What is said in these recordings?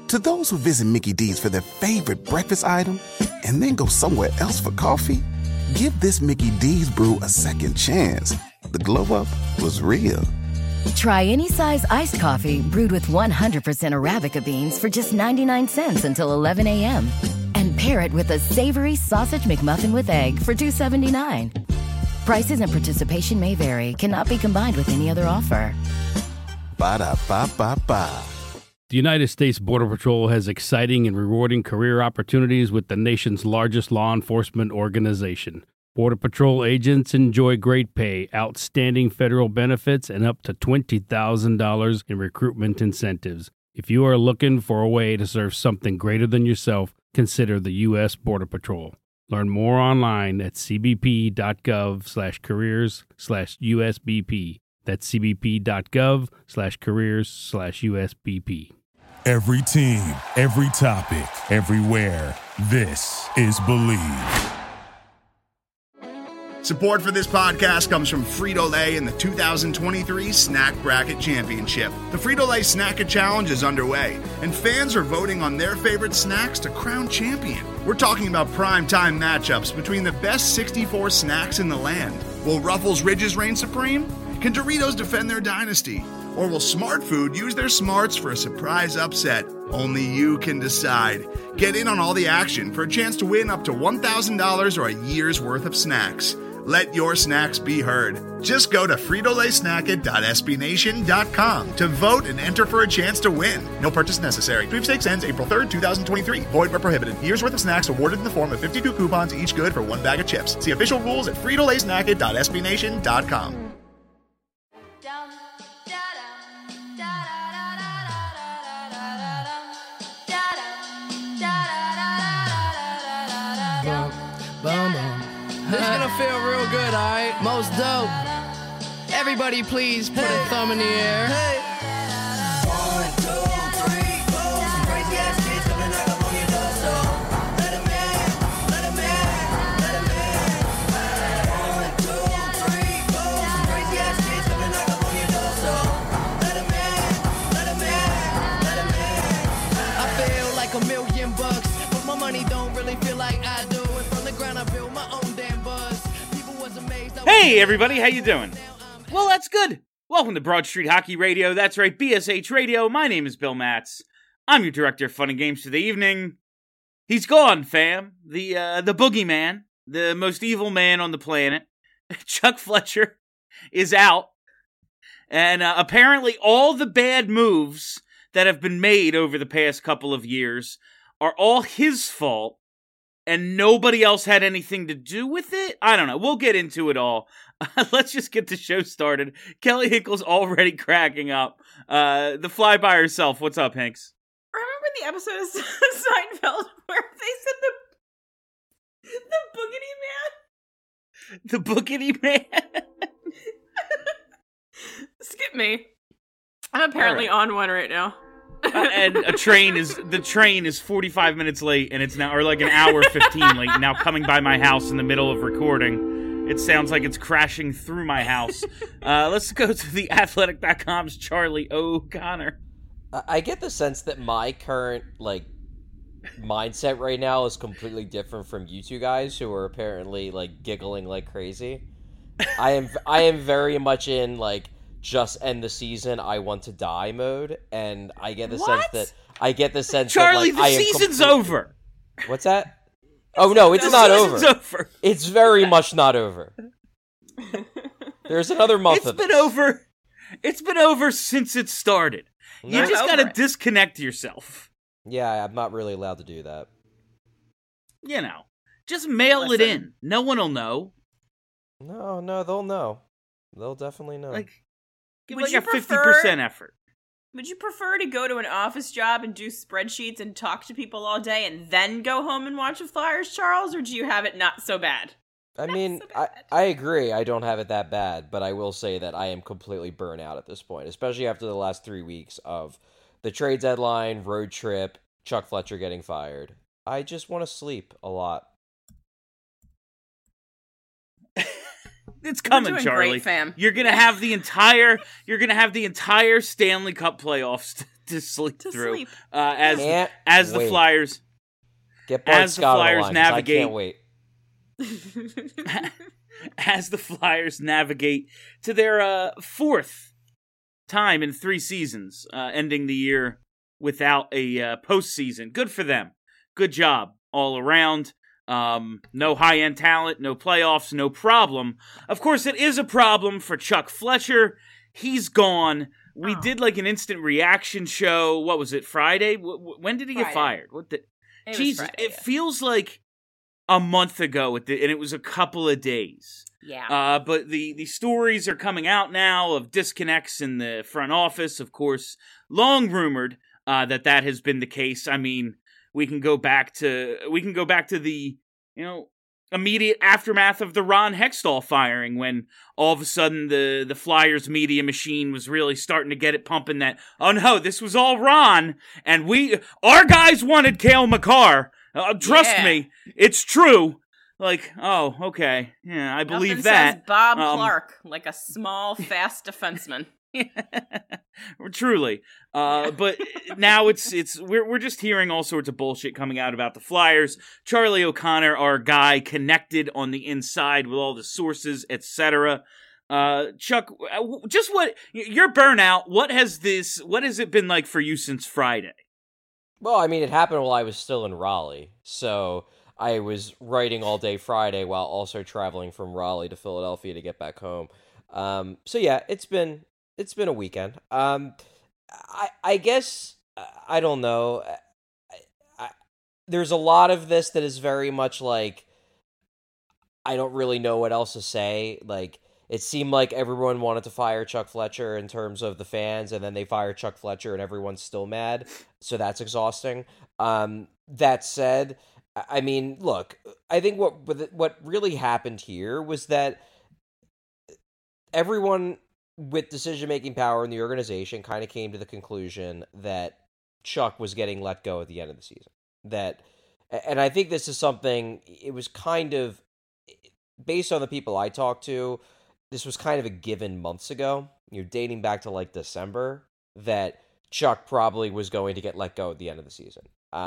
To those who visit Mickey D's for their favorite breakfast item and then go somewhere else for coffee, give this Mickey D's brew a second chance. The glow-up was real. Try any size iced coffee brewed with 100% Arabica beans for just 99 cents until 11 a.m. And pair it with a savory sausage McMuffin with egg for $2.79. Prices and participation may vary. Cannot be combined with any other offer. Ba-da-ba-ba-ba. The United States Border Patrol has exciting and rewarding career opportunities with the nation's largest law enforcement organization. Border Patrol agents enjoy great pay, outstanding federal benefits, and up to $20,000 in recruitment incentives. If you are looking for a way to serve something greater than yourself, consider the U.S. Border Patrol. Learn more online at cbp.gov/careers/USBP. That's cbp.gov/careers/USBP. Every team, every topic, everywhere. This is Believe. Support for this podcast comes from Frito-Lay and the 2023 Snack Bracket Championship. The Frito-Lay Snack-A Challenge is underway, and fans are voting on their favorite snacks to crown champion. We're talking about prime-time matchups between the best 64 snacks in the land. Will Ruffles Ridges reign supreme? Can Doritos defend their dynasty? Or will Smart Food use their smarts for a surprise upset? Only you can decide. Get in on all the action for a chance to win up to $1,000 or a year's worth of snacks. Let your snacks be heard. Just go to fritolaysnacket.sbnation.com to vote and enter for a chance to win. No purchase necessary. Sweepstakes ends April 3rd, 2023. Void where prohibited. Year's worth of snacks awarded in the form of 52 coupons, each good for one bag of chips. See official rules at fritolaysnacket.sbnation.com. This is gonna feel real good, alright? Most dope. Everybody please put a thumb in the air. Hey. 1, 2, 3, 4. Some crazy ass kids coming knock up on your door, so let 'em in, let 'em in, let 'em in. 1, 2, 3, 4. Some crazy ass kids coming knock up on your door, so let 'em in, let 'em in, let 'em in. I feel like $1,000,000, but my money don't really feel like I do. And from the ground I build my own damn buzz. People was amazed. Hey everybody, how you doing? Well, that's good. Welcome to Broad Street Hockey Radio. That's right, BSH Radio. My name is Bill Matz. I'm your director of fun and games for the evening. He's gone, fam. The boogeyman, the most evil man on the planet. Chuck Fletcher is out. And apparently all the bad moves that have been made over the past couple of years are all his fault. And nobody else had anything to do with it? I don't know. We'll get into it all. Let's just get the show started. Kelly Hinkle's already cracking up. The fly by herself. What's up, Hanks? Remember the episode of Seinfeld where they said the boogity man? The boogity man? Skip me. I'm apparently on one right now. And the train is 45 minutes late, and it's now, or like an hour 15 late, now coming by my house in the middle of recording. It sounds like it's crashing through my house. Let's go to the Athletic.com's Charlie O'Connor. I get the sense that my current, mindset right now is completely different from you two guys who are apparently, giggling like crazy. I am very much in, just end the season, I want to die mode, and I get the sense that Charlie, the season's over. What's that? Oh no, it's not over. Over. It's very much not over. There's another month of it. It's been over since it started. You just gotta disconnect yourself. Yeah, I'm not really allowed to do that. You know, just mail it in. No one will know. No, they'll know. They'll definitely know. Give like a 50% effort. Would you prefer to go to an office job and do spreadsheets and talk to people all day and then go home and watch the Flyers, Charles, or do you have it not so bad? I agree. I don't have it that bad, but I will say that I am completely burnt out at this point, especially after the last 3 weeks of the trade deadline, road trip, Chuck Fletcher getting fired. I just want to sleep a lot. It's coming, Charlie. Great, fam. You're gonna have the entire Stanley Cup playoffs to sleep To through. sleep. As Can't the wait. Flyers Get Bart as the Scott on Flyers line, 'cause I navigate- can't wait. as the Flyers navigate to their fourth time in 3 seasons, ending the year without a postseason. Good for them. Good job all around. No high-end talent, no playoffs, no problem. Of course, it is a problem for Chuck Fletcher. He's gone. We did like an instant reaction show. What was it, Friday? When did he get fired? Jesus, it feels like a month ago, and it was a couple of days. Yeah. But the stories are coming out now of disconnects in the front office. Of course, long rumored that has been the case. I mean, we can go back to the immediate aftermath of the Ron Hextall firing, when all of a sudden the Flyers media machine was really starting to get it pumping that, oh no, this was all Ron, and our guys wanted Cale Makar. Trust me, it's true. Like, oh, okay, yeah, I believe that. Says Bob Clark, like a small, fast defenseman. Truly, but now we're just hearing all sorts of bullshit coming out about the Flyers. Charlie O'Connor, our guy, connected on the inside with all the sources, etc. Chuck, just what your burnout? What has it been like for you since Friday? Well, I mean, it happened while I was still in Raleigh, so I was writing all day Friday while also traveling from Raleigh to Philadelphia to get back home. So yeah, it's been a weekend. I guess I don't know. There's a lot of this that is very much like I don't really know what else to say. Like, it seemed like everyone wanted to fire Chuck Fletcher in terms of the fans, and then they fire Chuck Fletcher and everyone's still mad. So that's exhausting. That said, I mean, look, I think what really happened here was that everyone with decision-making power in the organization kind of came to the conclusion that Chuck was getting let go at the end of the season. And I think this is something, it was kind of, based on the people I talked to, this was kind of a given months ago, dating back to like December, that Chuck probably was going to get let go at the end of the season.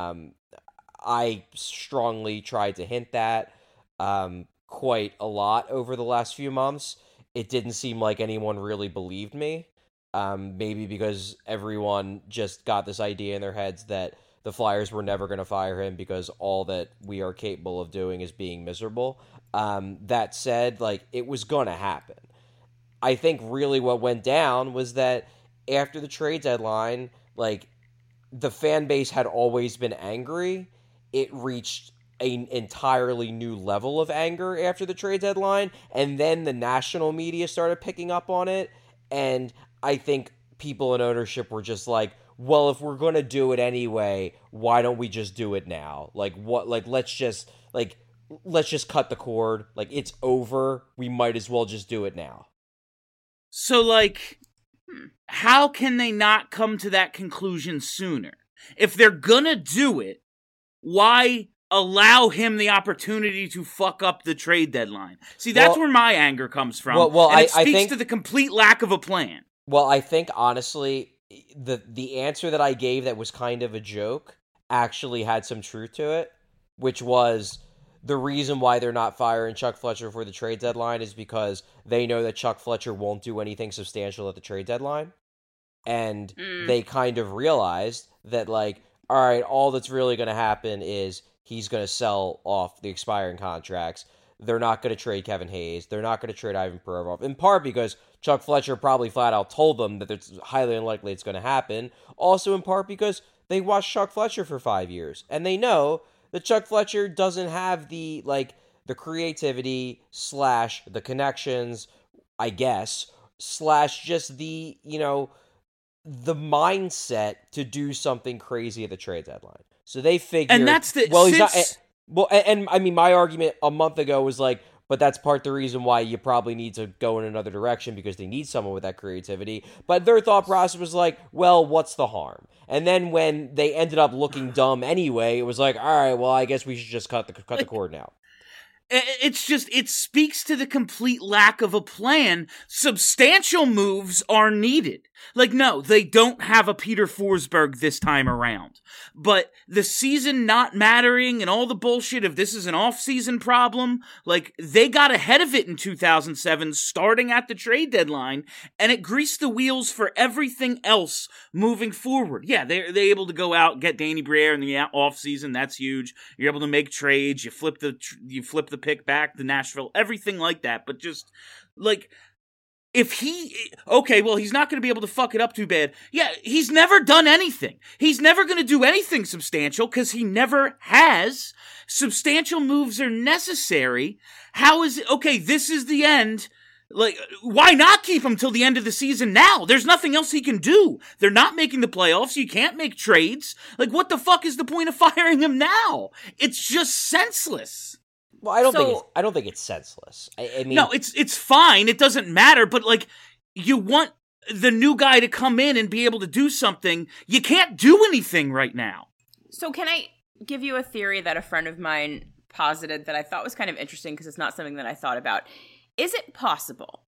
I strongly tried to hint that quite a lot over the last few months. It didn't seem like anyone really believed me. Maybe because everyone just got this idea in their heads that the Flyers were never going to fire him because all that we are capable of doing is being miserable. That said, like, it was going to happen. I think really what went down was that after the trade deadline, like, the fan base had always been angry. It reached an entirely new level of anger after the trade deadline, and then the national media started picking up on it, and I think people in ownership were just like, well, if we're going to do it anyway, why don't we just do it now? Like, what? Like, let's just cut the cord. Like, it's over. We might as well just do it now. So, like, how can they not come to that conclusion sooner? If they're gonna do it, why allow him the opportunity to fuck up the trade deadline? See, that's where my anger comes from. And it speaks to the complete lack of a plan. Well, I think, honestly, the answer that I gave that was kind of a joke actually had some truth to it, which was the reason why they're not firing Chuck Fletcher for the trade deadline is because they know that Chuck Fletcher won't do anything substantial at the trade deadline. And they kind of realized that, like, all right, all that's really going to happen is he's going to sell off the expiring contracts. They're not going to trade Kevin Hayes. They're not going to trade Ivan Provorov, in part because Chuck Fletcher probably flat out told them that it's highly unlikely it's going to happen. Also, in part because they watched Chuck Fletcher for 5 years, and they know that Chuck Fletcher doesn't have the creativity / the connections, I guess, / just the, the mindset to do something crazy at the trade deadline. So they figured, and that's the well, he's not. Well, and I mean, my argument a month ago was like, but that's part of the reason why you probably need to go in another direction, because they need someone with that creativity. But their thought process was like, well, what's the harm? And then when they ended up looking dumb anyway, it was like, all right, well, I guess we should just cut the cord now. It's just, it speaks to the complete lack of a plan. Substantial moves are needed. Like, no, they don't have a Peter Forsberg this time around. But the season not mattering and all the bullshit of this is an off-season problem, like, they got ahead of it in 2007, starting at the trade deadline, and it greased the wheels for everything else moving forward. Yeah, they're able to go out and get Danny Briere in the off-season. That's huge. You're able to make trades. You flip the pick back to Nashville. Everything like that. But just, like... he's not going to be able to fuck it up too bad. Yeah, he's never done anything. He's never going to do anything substantial because he never has. Substantial moves are necessary. How is it? Okay, this is the end. Like, why not keep him till the end of the season now? There's nothing else he can do. They're not making the playoffs. You can't make trades. Like, what the fuck is the point of firing him now? It's just senseless. Well, I don't think it's senseless. I mean, no, it's fine. It doesn't matter. But like, you want the new guy to come in and be able to do something. You can't do anything right now. So can I give you a theory that a friend of mine posited that I thought was kind of interesting because it's not something that I thought about? Is it possible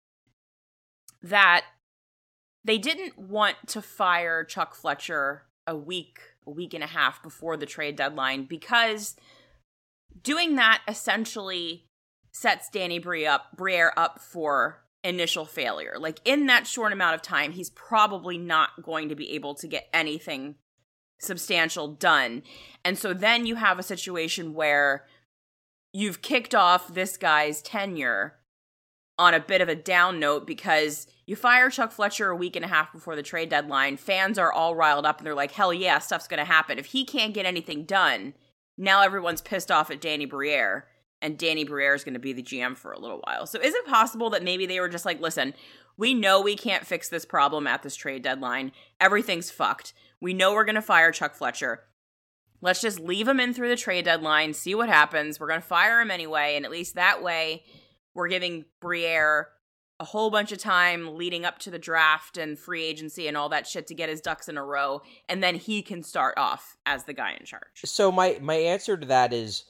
that they didn't want to fire Chuck Fletcher a week and a half before the trade deadline because doing that essentially sets Danny Briere up for initial failure? Like, in that short amount of time, he's probably not going to be able to get anything substantial done. And so then you have a situation where you've kicked off this guy's tenure on a bit of a down note because you fire Chuck Fletcher a week and a half before the trade deadline. Fans are all riled up and they're like, hell yeah, stuff's going to happen. If he can't get anything done, now everyone's pissed off at Danny Briere, and Danny Briere is going to be the GM for a little while. So is it possible that maybe they were just like, listen, we know we can't fix this problem at this trade deadline. Everything's fucked. We know we're going to fire Chuck Fletcher. Let's just leave him in through the trade deadline, see what happens. We're going to fire him anyway, and at least that way we're giving Briere a whole bunch of time leading up to the draft and free agency and all that shit to get his ducks in a row, and then he can start off as the guy in charge. So my answer to that is,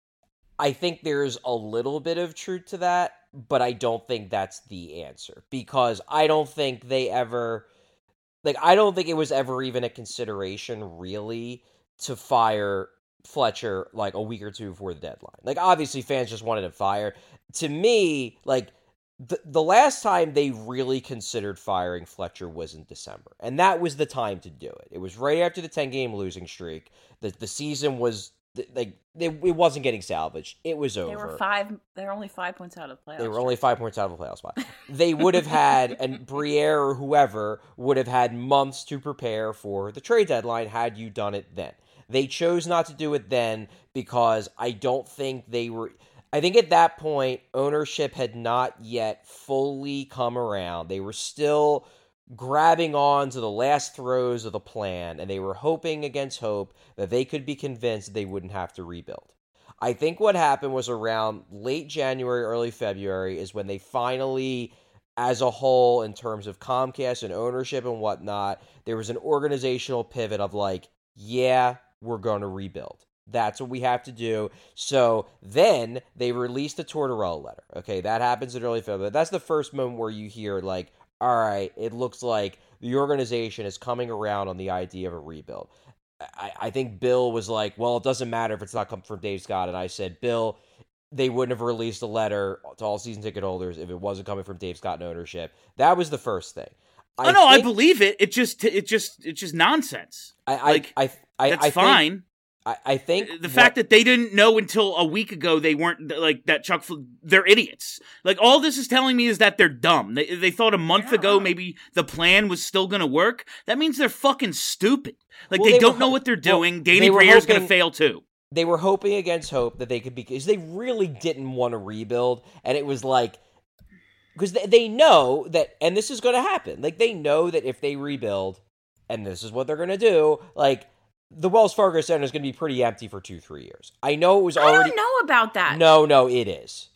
I think there's a little bit of truth to that, but I don't think that's the answer, because I don't think they ever, like, I don't think it was ever even a consideration really to fire Fletcher like a week or two before the deadline. Like, obviously fans just wanted him fired. To me, like, the last time they really considered firing Fletcher was in December, and that was the time to do it. It was right after the 10-game losing streak. The season was, like, it wasn't getting salvaged. It was over. They were only 5 points out of the playoffs. They were only 5 points out of the playoff spot. They would have had, and Briere or whoever would have had months to prepare for the trade deadline had you done it then. They chose not to do it then because I don't think they were... I think at that point, ownership had not yet fully come around. They were still grabbing on to the last throes of the plan, and they were hoping against hope that they could be convinced they wouldn't have to rebuild. I think what happened was around late January, early February is when they finally, as a whole, in terms of Comcast and ownership and whatnot, there was an organizational pivot of like, yeah, we're going to rebuild. That's what we have to do. So then they released the Tortorella letter. Okay, that happens in early February. That's the first moment where you hear like, all right, it looks like the organization is coming around on the idea of a rebuild. I think Bill was like, well, it doesn't matter if it's not coming from Dave Scott. And I said, Bill, they wouldn't have released a letter to all season ticket holders if it wasn't coming from Dave Scott and ownership. That was the first thing. I believe it. It's just nonsense. That's fine. I think the fact that they didn't know until a week ago they weren't, like, that they're idiots. Like, all this is telling me is that they're dumb. They thought a month ago maybe the plan was still going to work. That means they're fucking stupid. Like, they don't know what they're doing. Danny Briere's going to fail too. They were hoping against hope that they could be, because they really didn't want to rebuild. And it was like, because they know that, and this is going to happen. Like, they know that if they rebuild, and this is what they're going to do, like, the Wells Fargo Center is going to be pretty empty for 2-3 years. I know it was already... I don't know about that. No, it is.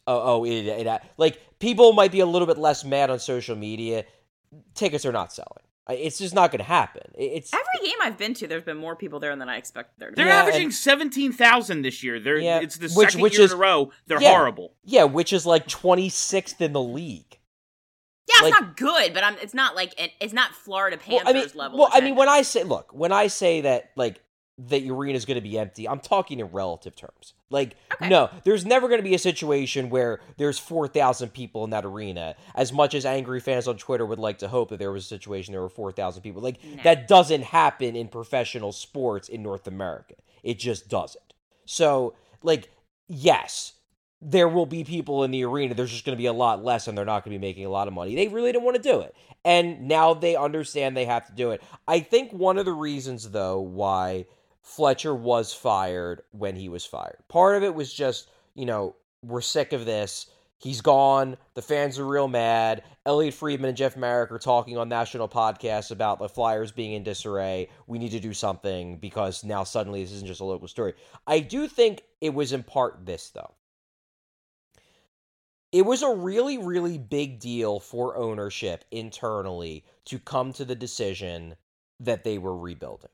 It like, people might be a little bit less mad on social media. Tickets are not selling. It's just not going to happen. It's every game I've been to, there's been more people there than I expected there to be. They're averaging 17,000 this year. It's the second year in a row. They're horrible. Yeah, which is like 26th in the league. Yeah, it's not good, but it's not like it's not Florida Panthers level. Well, I mean, when I say that like the arena is going to be empty, I'm talking in relative terms. Like, no, there's never going to be a situation where there's 4,000 people in that arena. As much as angry fans on Twitter would like to hope that there was a situation there were 4,000 people, like that doesn't happen in professional sports in North America. It just doesn't. So, like, yes, there will be people in the arena. There's just going to be a lot less, and they're not going to be making a lot of money. They really didn't want to do it. And now they understand they have to do it. I think one of the reasons, though, why Fletcher was fired when he was fired, part of it was just, we're sick of this. He's gone. The fans are real mad. Elliot Friedman and Jeff Marek are talking on national podcasts about the Flyers being in disarray. We need to do something because now suddenly this isn't just a local story. I do think it was in part this, though. It was a really, really big deal for ownership internally to come to the decision that they were rebuilding.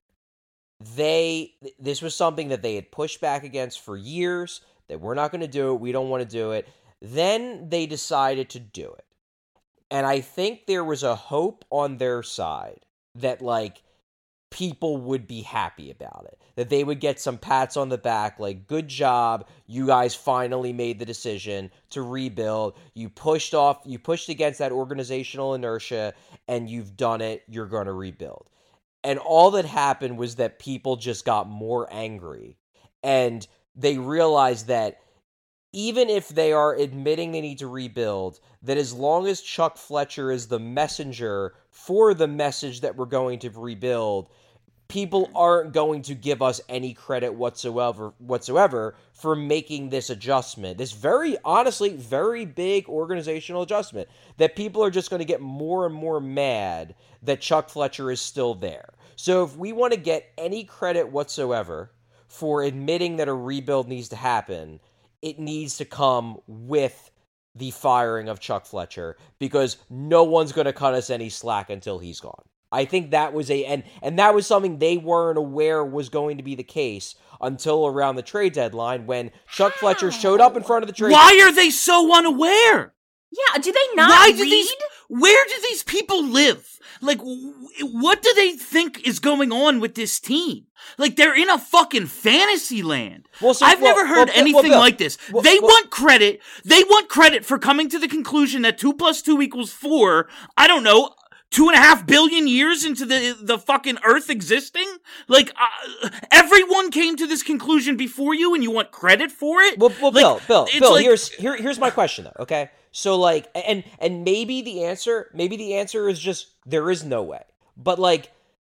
This was something that they had pushed back against for years, that we're not going to do it, we don't want to do it. Then they decided to do it. And I think there was a hope on their side that, like, people would be happy about it. That they would get some pats on the back, like, good job, you guys finally made the decision to rebuild. You pushed against that organizational inertia, and you've done it, you're going to rebuild. And all that happened was that people just got more angry. And they realized that even if they are admitting they need to rebuild, that as long as Chuck Fletcher is the messenger for the message that we're going to rebuild, people aren't going to give us any credit whatsoever for making this adjustment. This honestly, very big organizational adjustment that people are just going to get more and more mad that Chuck Fletcher is still there. So if we want to get any credit whatsoever for admitting that a rebuild needs to happen, it needs to come with the firing of Chuck Fletcher, because no one's going to cut us any slack until he's gone. I think that was and that was something they weren't aware was going to be the case until around the trade deadline, when Chuck Fletcher showed up in front of the trade. Why are they so unaware? Yeah, do they not read? Where do these people live? Like, what do they think is going on with this team? Like, they're in a fucking fantasy land. I've never heard anything like this. They want credit. They want credit for coming to the conclusion that 2 + 2 = 4, I don't know, 2.5 billion years into the fucking Earth existing? Like, everyone came to this conclusion before you, and you want credit for it? Well, like, Bill, like, here's my question, though, okay? So, like, and maybe the answer is just, there is no way. But, like,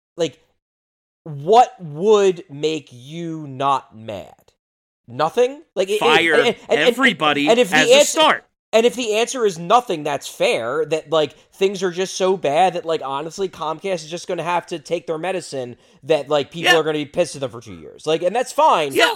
what would make you not mad? Nothing? Like, fire everybody as a start. And if the answer is nothing, that's fair. That, like, things are just so bad that, like, honestly, Comcast is just going to have to take their medicine. That, like, people are going to be pissed at them for 2 years. Like, and that's fine. Yeah,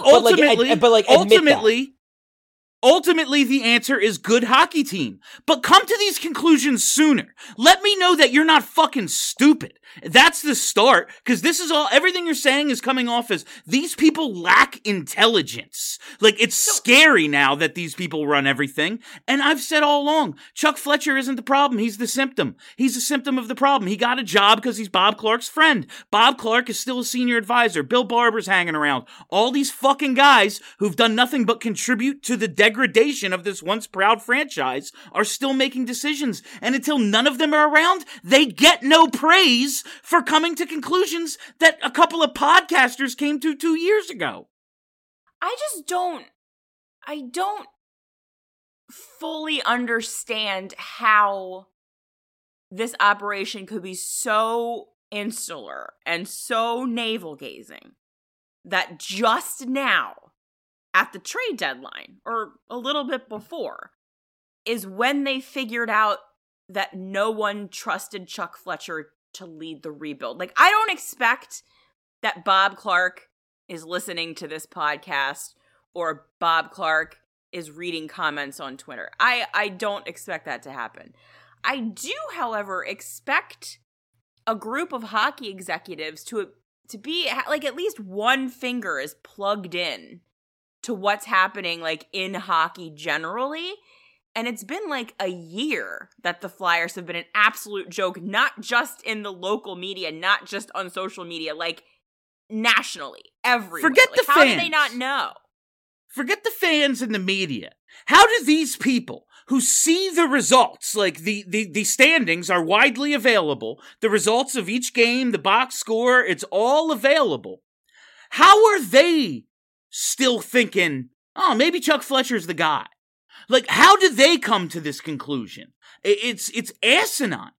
ultimately, the answer is good hockey team. But come to these conclusions sooner. Let me know that you're not fucking stupid. That's the start, because this is everything you're saying is coming off as these people lack intelligence. Like, it's scary now that these people run everything. And I've said all along, Chuck Fletcher isn't the problem. He's the symptom. He's a symptom of the problem. He got a job because he's Bob Clark's friend. Bob Clark is still a senior advisor. Bill Barber's hanging around. All these fucking guys who've done nothing but contribute to the degradation of this once proud franchise are still making decisions. And until none of them are around, they get no praise for coming to conclusions that a couple of podcasters came to 2 years ago. I don't fully understand how this operation could be so insular and so navel-gazing that just now, at the trade deadline, or a little bit before, is when they figured out that no one trusted Chuck Fletcher to lead the rebuild. Like, I don't expect that Bob Clark is listening to this podcast or Bob Clark is reading comments on Twitter. I don't expect that to happen. I do, however, expect a group of hockey executives to be, like, at least one finger is plugged in to what's happening, like, in hockey generally, And it's been like a year that the Flyers have been an absolute joke, not just in the local media, not just on social media, like nationally, everywhere. Forget like, the how fans. do they not know? Forget the fans and the media. How do these people who see the results, like the standings are widely available, the results of each game, the box score, it's all available. How are they still thinking, oh, maybe Chuck Fletcher's the guy? Like, how did they come to this conclusion? It's asinine.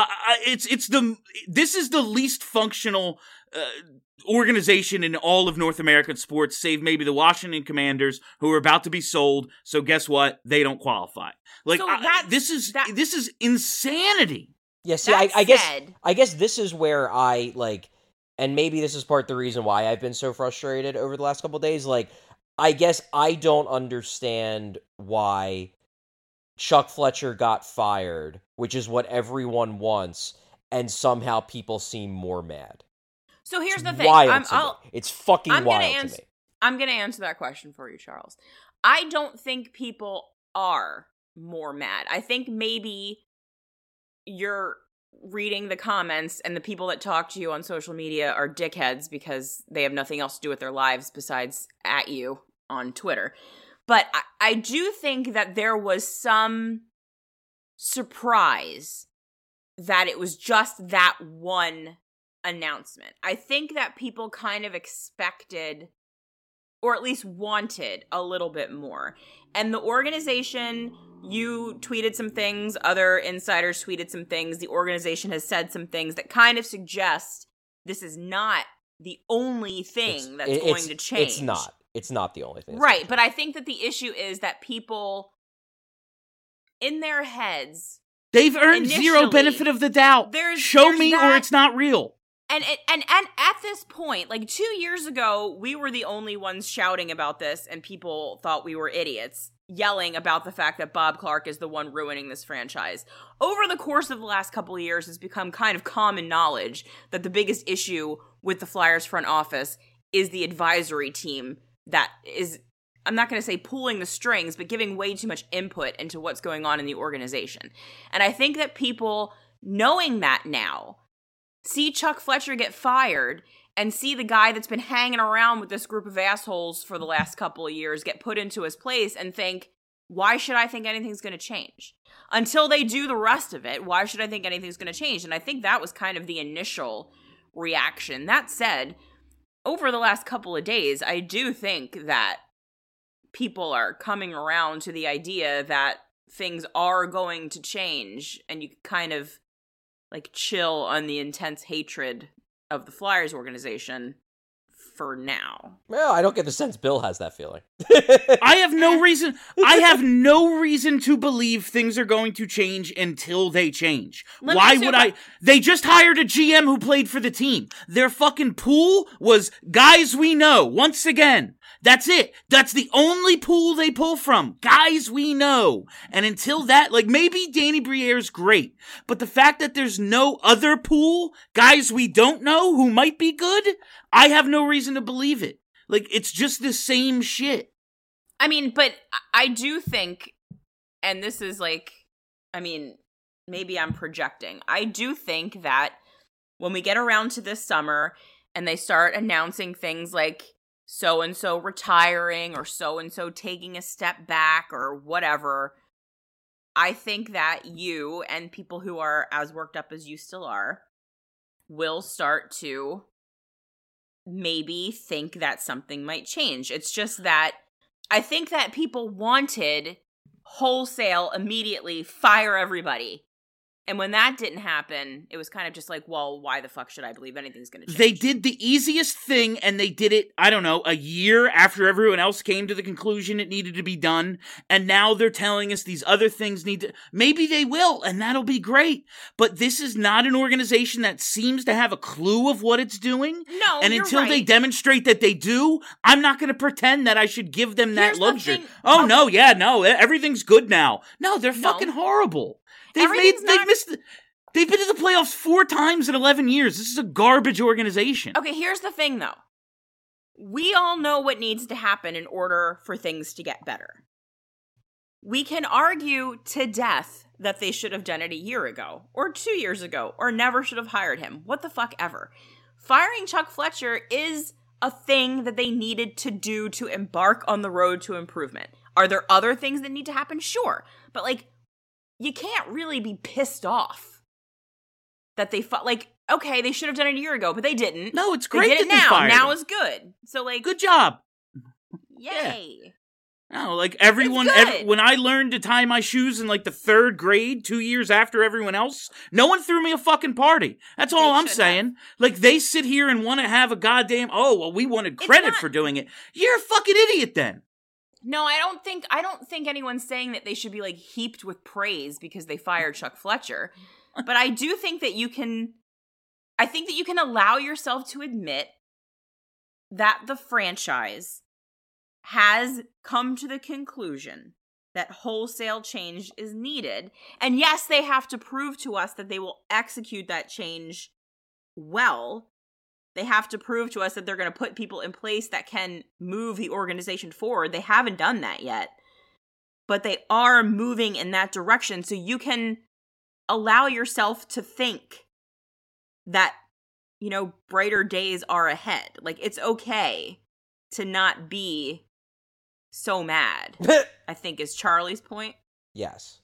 This is the least functional organization in all of North American sports, save maybe the Washington Commanders, who are about to be sold. So guess what? They don't qualify. Like, So this is insanity. Yeah, see, I guess this is where I, like, and maybe this is part of the reason why I've been so frustrated over the last couple of days, like, I guess I don't understand why Chuck Fletcher got fired, which is what everyone wants, and somehow people seem more mad. So here's the thing. It's fucking wild to me. I'm going to answer that question for you, Charles. I don't think people are more mad. I think maybe you're reading the comments and the people that talk to you on social media are dickheads because they have nothing else to do with their lives besides at you on Twitter. But I do think that there was some surprise that it was just that one announcement. I think that people kind of expected, or at least wanted, a little bit more. And the organization, you tweeted some things, other insiders tweeted some things, the organization has said some things that kind of suggest this is not the only thing that's going to change. It's not the only thing. Right, but I think that the issue is that people, in their heads, they've earned zero benefit of the doubt. Show me or it's not real. And at this point, like 2 years ago, we were the only ones shouting about this, and people thought we were idiots, yelling about the fact that Bob Clark is the one ruining this franchise. Over the course of the last couple of years, it's become kind of common knowledge that the biggest issue with the Flyers front office is the advisory team that is, I'm not going to say pulling the strings, but giving way too much input into what's going on in the organization. And I think that people, knowing that now, see Chuck Fletcher get fired and see the guy that's been hanging around with this group of assholes for the last couple of years get put into his place and think, why should I think anything's going to change? Until they do the rest of it, why should I think anything's going to change? And I think that was kind of the initial reaction. That said, over the last couple of days, I do think that people are coming around to the idea that things are going to change, and you kind of like chill on the intense hatred of the Flyers organization for now. Well, I don't get the sense Bill has that feeling. I have no reason to believe things are going to change until they change. Why would I? They just hired a GM who played for the team. Their fucking pool was guys we know. Once again, that's it. That's the only pool they pull from. Guys we know. And until that, like, maybe Danny Briere's great, but the fact that there's no other pool, guys we don't know who might be good, I have no reason to believe it. Like, it's just the same shit. I mean, but I do think, and this is like, I mean, maybe I'm projecting. I do think that when we get around to this summer and they start announcing things like so-and-so retiring or so-and-so taking a step back or whatever, I think that you and people who are as worked up as you still are will start to maybe think that something might change. It's just that I think that people wanted wholesale, immediately fire everybody. And when that didn't happen, it was kind of just like, well, why the fuck should I believe anything's going to change? They did the easiest thing, and they did it, I don't know, a year after everyone else came to the conclusion it needed to be done. And now they're telling us these other things need to... Maybe they will, and that'll be great. But this is not an organization that seems to have a clue of what it's doing. No, and you're until right. they demonstrate that they do, I'm not going to pretend that I should give them that Here's the luxury. thing- Oh, no, yeah, no, everything's good now. No, they're fucking horrible. They've been to the playoffs 4 times in 11 years. This is a garbage organization. Okay, here's the thing, though. We all know what needs to happen in order for things to get better. we can argue to death that they should have done it a year ago or 2 years ago or never should have hired him. What the fuck ever. Firing Chuck Fletcher is a thing that they needed to do to embark on the road to improvement. Are there other things that need to happen? Sure. But, like, you can't really be pissed off that they okay, they should have done it a year ago, but they didn't. No, it's great they did that it now. they fired Now him. is good. So, like, Good job. Yay. Yeah. No, like everyone, when I learned to tie my shoes in like the 3rd grade, 2 years after everyone else, no one threw me a fucking party. That's all I'm saying. Like, they sit here and want to have a goddamn, we wanted credit for doing it. You're a fucking idiot then. No, I don't think anyone's saying that they should be, like, heaped with praise because they fired Chuck Fletcher. But I do think that you can allow yourself to admit that the franchise has come to the conclusion that wholesale change is needed. And yes, they have to prove to us that they will execute that change well. They have to prove to us that they're going to put people in place that can move the organization forward. They haven't done that yet. But they are moving in that direction. So you can allow yourself to think that, brighter days are ahead. Like, it's okay to not be so mad, I think is Charlie's point. Yes.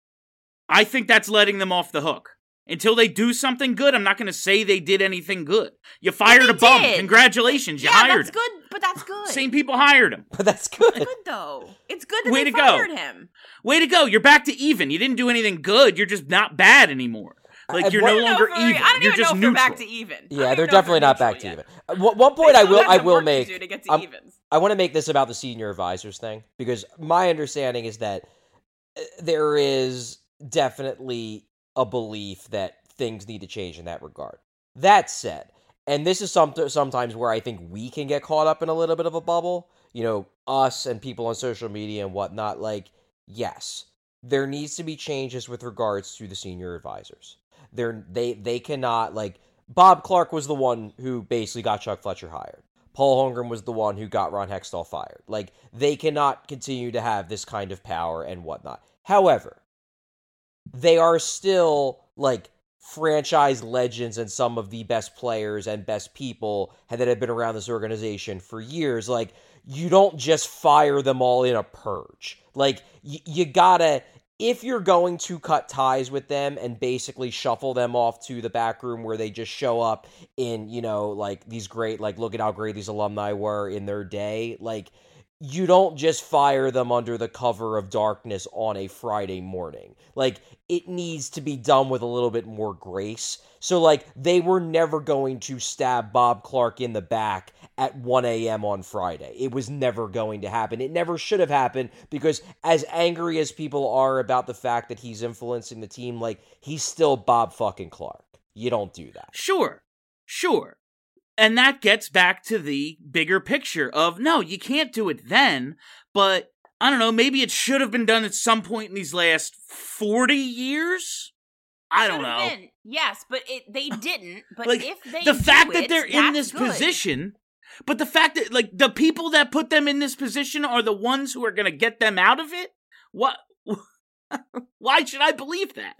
I think that's letting them off the hook. Until they do something good, I'm not going to say they did anything good. You fired a bum. Congratulations, you hired him. That's good, but that's good. Same people hired him. But that's good. It's good, though. It's good that Way they to fired go. him. Way to go. You're back to even. You didn't do anything good. You're just not bad anymore. Like, you're no longer even. I don't You're even just know if neutral. they're back to even. Yeah, they're definitely not back to even. One point I will make. To get to evens. I want to make this about the senior advisors thing, because my understanding is that there is definitely a belief that things need to change in that regard. That said, and this is sometimes where I think we can get caught up in a little bit of a bubble, us and people on social media and whatnot, like, yes, there needs to be changes with regards to the senior advisors. They cannot, like, Bob Clark was the one who basically got Chuck Fletcher hired. Paul Holmgren was the one who got Ron Hextall fired. Like, they cannot continue to have this kind of power and whatnot. However, they are still, like, franchise legends and some of the best players and best people that have been around this organization for years. Like, you don't just fire them all in a purge. Like, you gotta, if you're going to cut ties with them and basically shuffle them off to the back room where they just show up in, like, these great, like, look at how great these alumni were in their day, like, you don't just fire them under the cover of darkness on a Friday morning. Like, it needs to be done with a little bit more grace. So, like, they were never going to stab Bob Clark in the back at 1 a.m. on Friday. It was never going to happen. It never should have happened, because as angry as people are about the fact that he's influencing the team, like, he's still Bob fucking Clark. You don't do that. Sure. And that gets back to the bigger picture of, no, you can't do it then, but, I don't know, maybe it should have been done at some point in these last 40 years? I don't know. Been. Yes, but they didn't. But like, if they the fact do that they're in this position, but the fact that, like, the people that put them in this position are the ones who are going to get them out of it? What? Why should I believe that?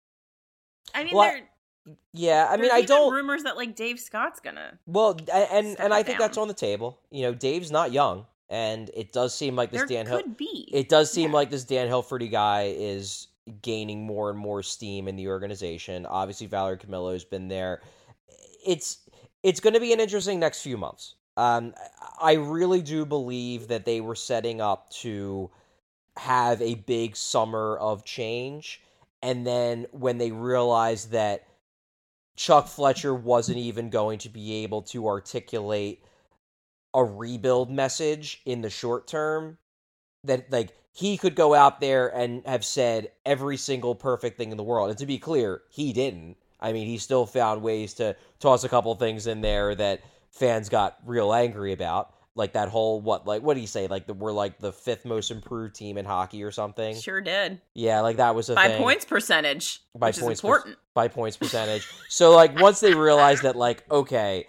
I mean, yeah, I mean, I don't. Rumors that, like, Dave Scott's gonna. Well, and I think that's on the table. Dave's not young, and it does seem like this It does seem like this Dan Hilferty guy is gaining more and more steam in the organization. Obviously, Valerie Camillo's been there. It's going to be an interesting next few months. I really do believe that they were setting up to have a big summer of change, and then when they realized that Chuck Fletcher wasn't even going to be able to articulate a rebuild message in the short term, that, like, he could go out there and have said every single perfect thing in the world. And to be clear, he didn't. I mean, he still found ways to toss a couple things in there that fans got real angry about. Like that whole, what did he say? Like, we're like the 5th most improved team in hockey or something? Sure did. Yeah, like that was a thing. By points percentage, which is important. By points percentage. So, like, once they realized that, like, okay,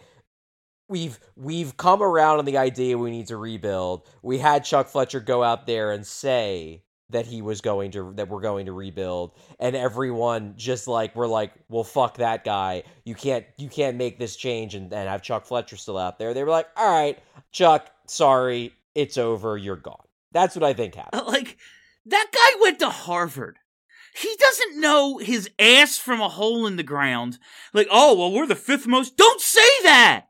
we've come around on the idea we need to rebuild, we had Chuck Fletcher go out there and say that we're going to rebuild, and everyone just like, we're like, well, fuck that guy. You can't make this change and have Chuck Fletcher still out there. They were like, all right, Chuck, sorry, it's over, you're gone. That's what I think happened. Like, that guy went to Harvard. He doesn't know his ass from a hole in the ground. Like, oh, well, we're the 5th most. Don't say that!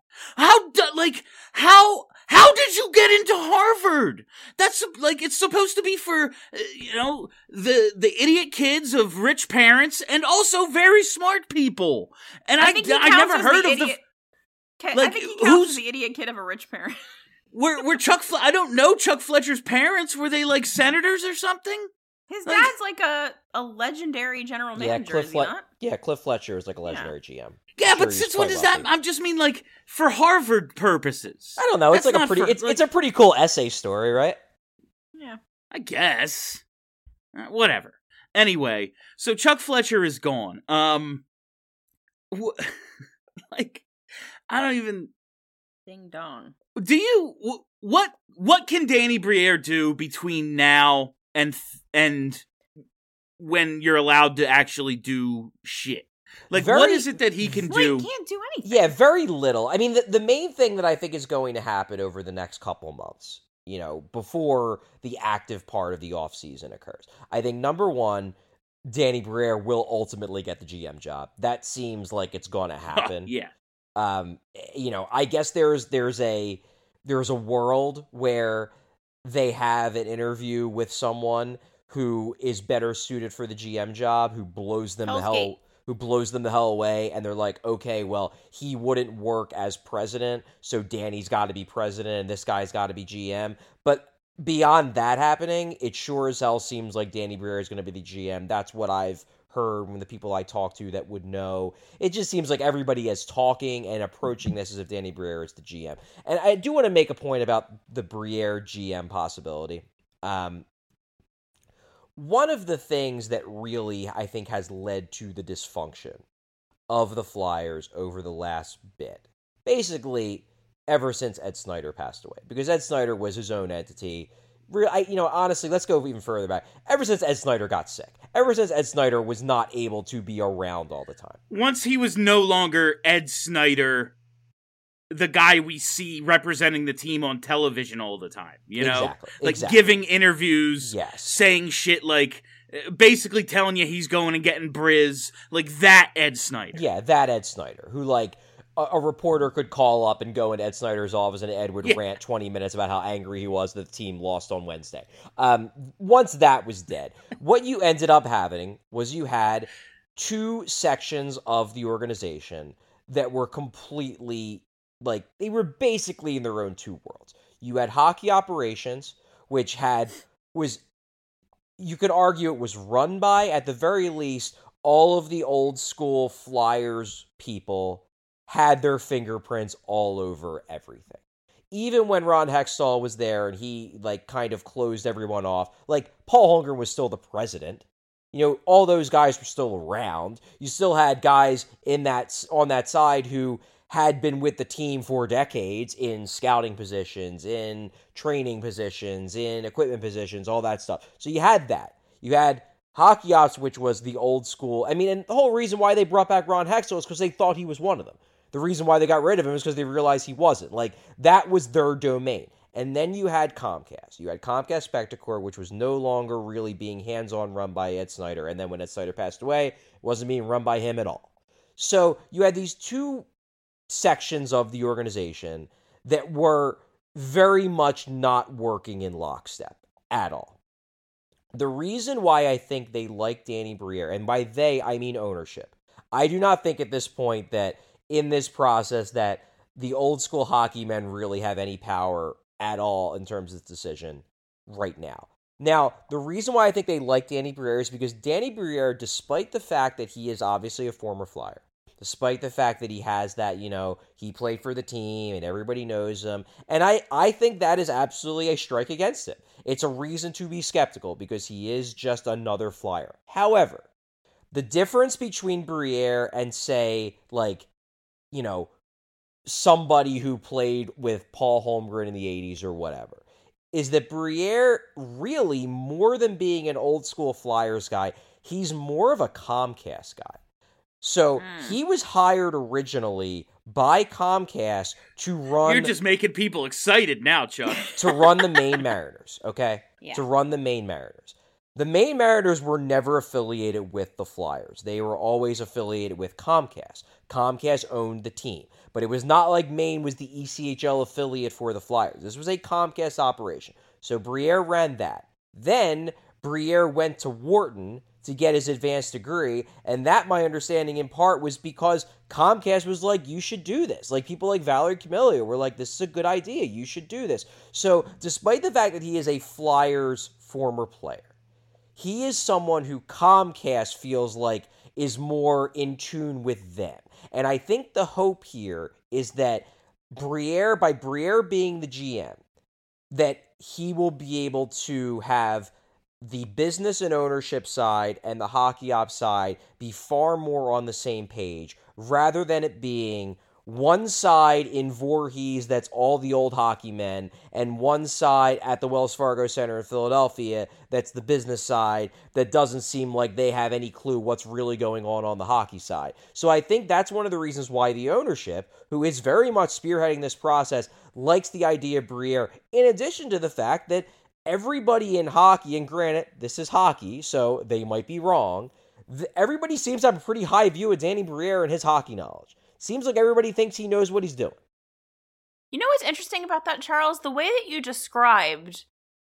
How did you get into Harvard? That's, like, it's supposed to be for, the idiot kids of rich parents and also very smart people. And I never heard of the... I think he counts as the idiot kid of a rich parent. Were I don't know Chuck Fletcher's parents. Were they, like, senators or something? His dad's like a legendary general manager, is he not? Yeah, Cliff Fletcher is like a legendary GM. Yeah, but since when does that? I just mean like for Harvard purposes. I don't know. It's like a pretty. It's a pretty cool essay story, right? Yeah, I guess. Whatever. Anyway, so Chuck Fletcher is gone. Like, I don't even. Ding dong. Do you what can Danny Briere do between now and when you're allowed to actually do shit? Like, what is it that he can do? He can't do anything. Yeah, very little. I mean, the main thing that I think is going to happen over the next couple months, before the active part of the offseason occurs, I think, number one, Danny Briere will ultimately get the GM job. That seems like it's going to happen. Yeah. I guess there's a world where they have an interview with someone who is better suited for the GM job, who blows them the hell away, and they're like, okay, well, he wouldn't work as president, so Danny's got to be president, and this guy's got to be GM. But beyond that happening, it sure as hell seems like Danny Briere is going to be the GM. That's what I've heard from the people I talk to that would know. It just seems like everybody is talking and approaching this as if Danny Briere is the GM. And I do want to make a point about the Briere GM possibility. One of the things that really, I think, has led to the dysfunction of the Flyers over the last bit, basically ever since Ed Snyder passed away, because Ed Snyder was his own entity. Honestly, let's go even further back. Ever since Ed Snyder got sick, ever since Ed Snyder was not able to be around all the time. Once he was no longer Ed Snyder, the guy we see representing the team on television all the time, Exactly. Giving interviews, yes, saying shit like, basically telling you he's going and getting Briz, like that Ed Snyder. Yeah, that Ed Snyder, who like a reporter could call up and go into Ed Snyder's office and Ed would rant 20 minutes about how angry he was that the team lost on Wednesday. Once that was dead, what you ended up having was you had two sections of the organization that were completely, like, they were basically in their own two worlds. You had hockey operations, which you could argue it was run by, at the very least, all of the old school Flyers people had their fingerprints all over everything. Even when Ron Hextall was there and he, like, kind of closed everyone off, like, Paul Holmgren was still the president. All those guys were still around. You still had guys on that side who had been with the team for decades in scouting positions, in training positions, in equipment positions, all that stuff. So you had that. You had hockey ops, which was the old school. I mean, and the whole reason why they brought back Ron Hextall is because they thought he was one of them. The reason why they got rid of him is because they realized he wasn't. Like, that was their domain. And then you had Comcast. You had Comcast Spectacor, which was no longer really being hands-on run by Ed Snyder. And then when Ed Snyder passed away, it wasn't being run by him at all. So you had these two sections of the organization that were very much not working in lockstep at all. The reason why I think they like Danny Briere, and by they, I mean ownership. I do not think at this point that in this process that the old school hockey men really have any power at all in terms of this decision right now. Now, the reason why I think they like Danny Briere is because Danny Briere, despite the fact that he is obviously a former Flyer, despite the fact that he has that, he played for the team and everybody knows him, and I think that is absolutely a strike against him. It's a reason to be skeptical because he is just another Flyer. However, the difference between Briere and, say, like, somebody who played with Paul Holmgren in the 80s or whatever, is that Briere really, more than being an old school Flyers guy, he's more of a Comcast guy. So he was hired originally by Comcast to run... You're just making people excited now, Chuck. To run the Maine Mariners, okay? Yeah. To run the Maine Mariners. The Maine Mariners were never affiliated with the Flyers. They were always affiliated with Comcast. Comcast owned the team. But it was not like Maine was the ECHL affiliate for the Flyers. This was a Comcast operation. So Briere ran that. Then Briere went to Wharton to get his advanced degree, and that, my understanding in part, was because Comcast was like, you should do this. Like, people like Valerie Camilio were like, this is a good idea, you should do this. So, despite the fact that he is a Flyers former player, he is someone who Comcast feels like is more in tune with them. And I think the hope here is that Briere, by Briere being the GM, that he will be able to have the business and ownership side and the hockey ops side be far more on the same page, rather than it being one side in Voorhees that's all the old hockey men, and one side at the Wells Fargo Center in Philadelphia that's the business side that doesn't seem like they have any clue what's really going on the hockey side. So I think that's one of the reasons why the ownership, who is very much spearheading this process, likes the idea of Briere, in addition to the fact that everybody in hockey, and granted, this is hockey, so they might be wrong, everybody seems to have a pretty high view of Danny Briere and his hockey knowledge. Seems like everybody thinks he knows what he's doing. You know what's interesting about that, Charles? The way that you described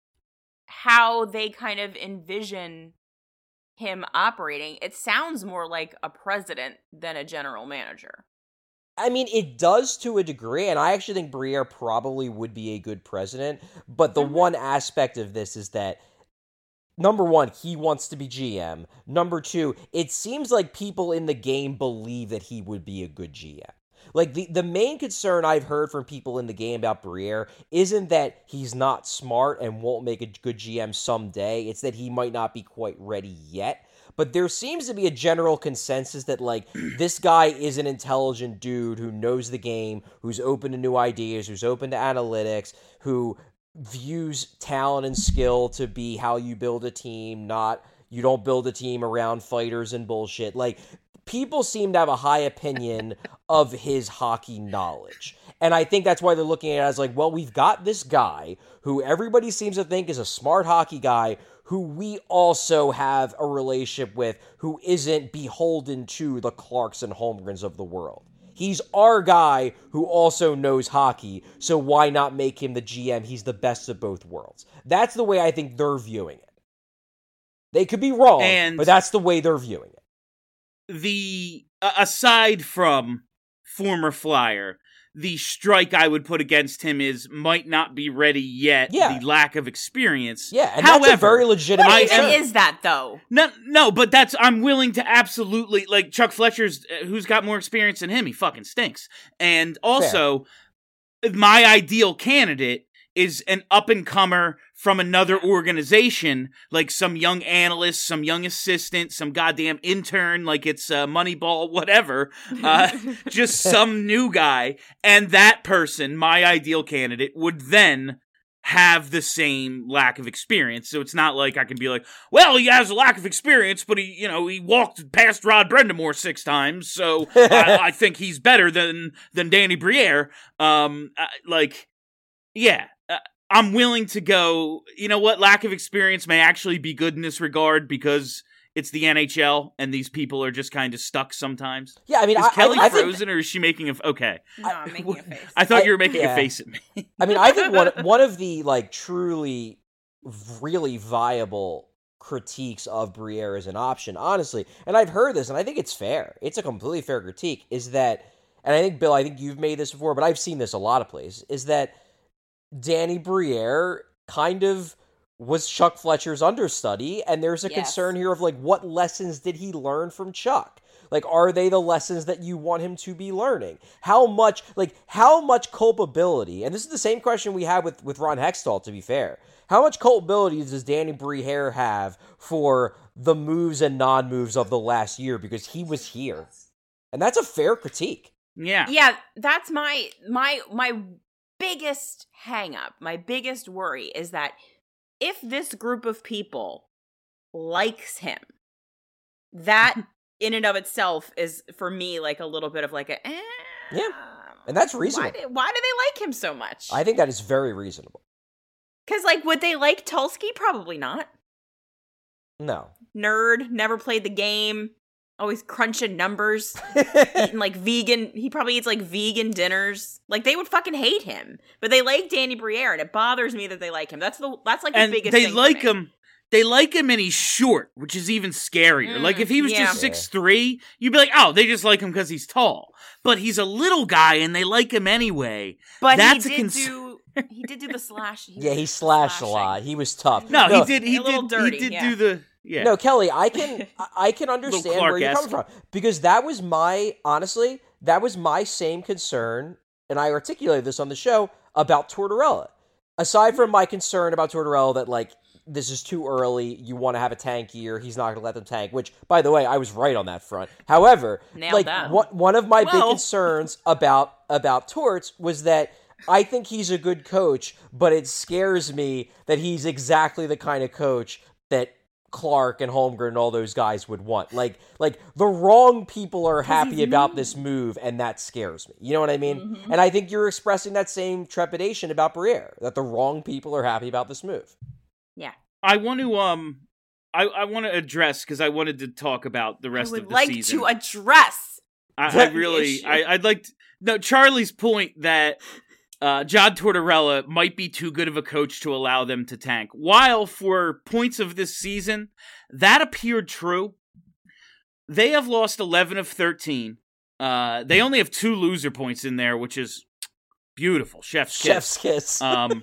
how they kind of envision him operating, it sounds more like a president than a general manager. I mean, it does to a degree, and I actually think Briere probably would be a good president, but the one aspect of this is that, number one, he wants to be GM. Number two, it seems like people in the game believe that he would be a good GM. Like, the main concern I've heard from people in the game about Briere isn't that he's not smart and won't make a good GM someday. It's that he might not be quite ready yet. But there seems to be a general consensus that, like, this guy is an intelligent dude who knows the game, who's open to new ideas, who's open to analytics, who views talent and skill to be how you build a team, not you don't build a team around fighters and bullshit. Like, people seem to have a high opinion of his hockey knowledge. And I think that's why they're looking at it as like, well, we've got this guy who everybody seems to think is a smart hockey guy who we also have a relationship with, who isn't beholden to the Clarks and Holmgrens of the world. He's our guy who also knows hockey, so why not make him the GM? He's the best of both worlds. That's the way I think they're viewing it. They could be wrong, but that's the way they're viewing it. Aside from former Flyer, the strike I would put against him is might not be ready yet. Yeah. The lack of experience. Yeah, and however, that's a very legitimate. What even is that though? No, but I'm willing to absolutely, like, Chuck Fletcher's, who's got more experience than him. He fucking stinks. And also, my ideal candidate is an up-and-comer from another organization, like some young analyst, some young assistant, some goddamn intern, like it's Moneyball, whatever, just some new guy, and that person, my ideal candidate, would then have the same lack of experience. So it's not like I can be like, well, he has a lack of experience, but he walked past Rod Brendamore 6 times, so I think he's better than Danny Briere. I'm willing to go, you know what, lack of experience may actually be good in this regard because it's the NHL and these people are just kind of stuck sometimes. Yeah, I mean, is Kelly frozen or is she making a... Okay. No, I'm making a face. I thought you were making a face at me. I mean, I think one of the, like, truly, really viable critiques of Briere as an option, honestly, and I've heard this, and I think it's fair. It's a completely fair critique, is that, and I think, Bill, I think you've made this before, but I've seen this a lot of places, is that Danny Briere kind of was Chuck Fletcher's understudy, and there's a concern here of, like, what lessons did he learn from Chuck? Like, are they the lessons that you want him to be learning? How much culpability, and this is the same question we had with Ron Hextall, to be fair. How much culpability does Danny Briere have for the moves and non-moves of the last year? Because he was here. And that's a fair critique. Yeah. Yeah, that's my biggest hang up, my biggest worry is that if this group of people likes him, that in and of itself is for me like a little bit of like a yeah, and that's reasonable. Why do they like him so much? I think that is very reasonable. Because like, would they like Tulski? Probably not. No. Nerd, never played the game, always crunching numbers, eating like vegan. He probably eats like vegan dinners. Like they would fucking hate him, but they like Danny Briere, and it bothers me that they like him. That's like the biggest. They thing like for me. him. They like him, and he's short, which is even scarier. Like if he was just 6'3", you'd be like, "Oh, they just like him because he's tall." But he's a little guy, and they like him anyway. But that's he did do the slash. He slashed a lot. He was tough. No, he did. He did do the. Yeah. No, Kelly, I can understand where you're coming from, because that was my same concern, and I articulated this on the show about Tortorella. Aside from my concern about Tortorella that like this is too early, you want to have a tank year, he's not going to let them tank, which, by the way, I was right on that front. However, one of my big concerns about Torts was that I think he's a good coach, but it scares me that he's exactly the kind of coach that Clark and Holmgren and all those guys would want. Like the wrong people are happy about this move, and that scares me. You know what I mean? Mm-hmm. And I think you're expressing that same trepidation about Briere, that the wrong people are happy about this move. Yeah. I want to I want to address, because I wanted to talk about the rest of the season. I would like to address. I'd like to, no, Charlie's point that John Tortorella might be too good of a coach to allow them to tank. While for points of this season, that appeared true. They have lost 11 of 13. They only have 2 loser points in there, which is beautiful. Chef's kiss. Chef's kiss.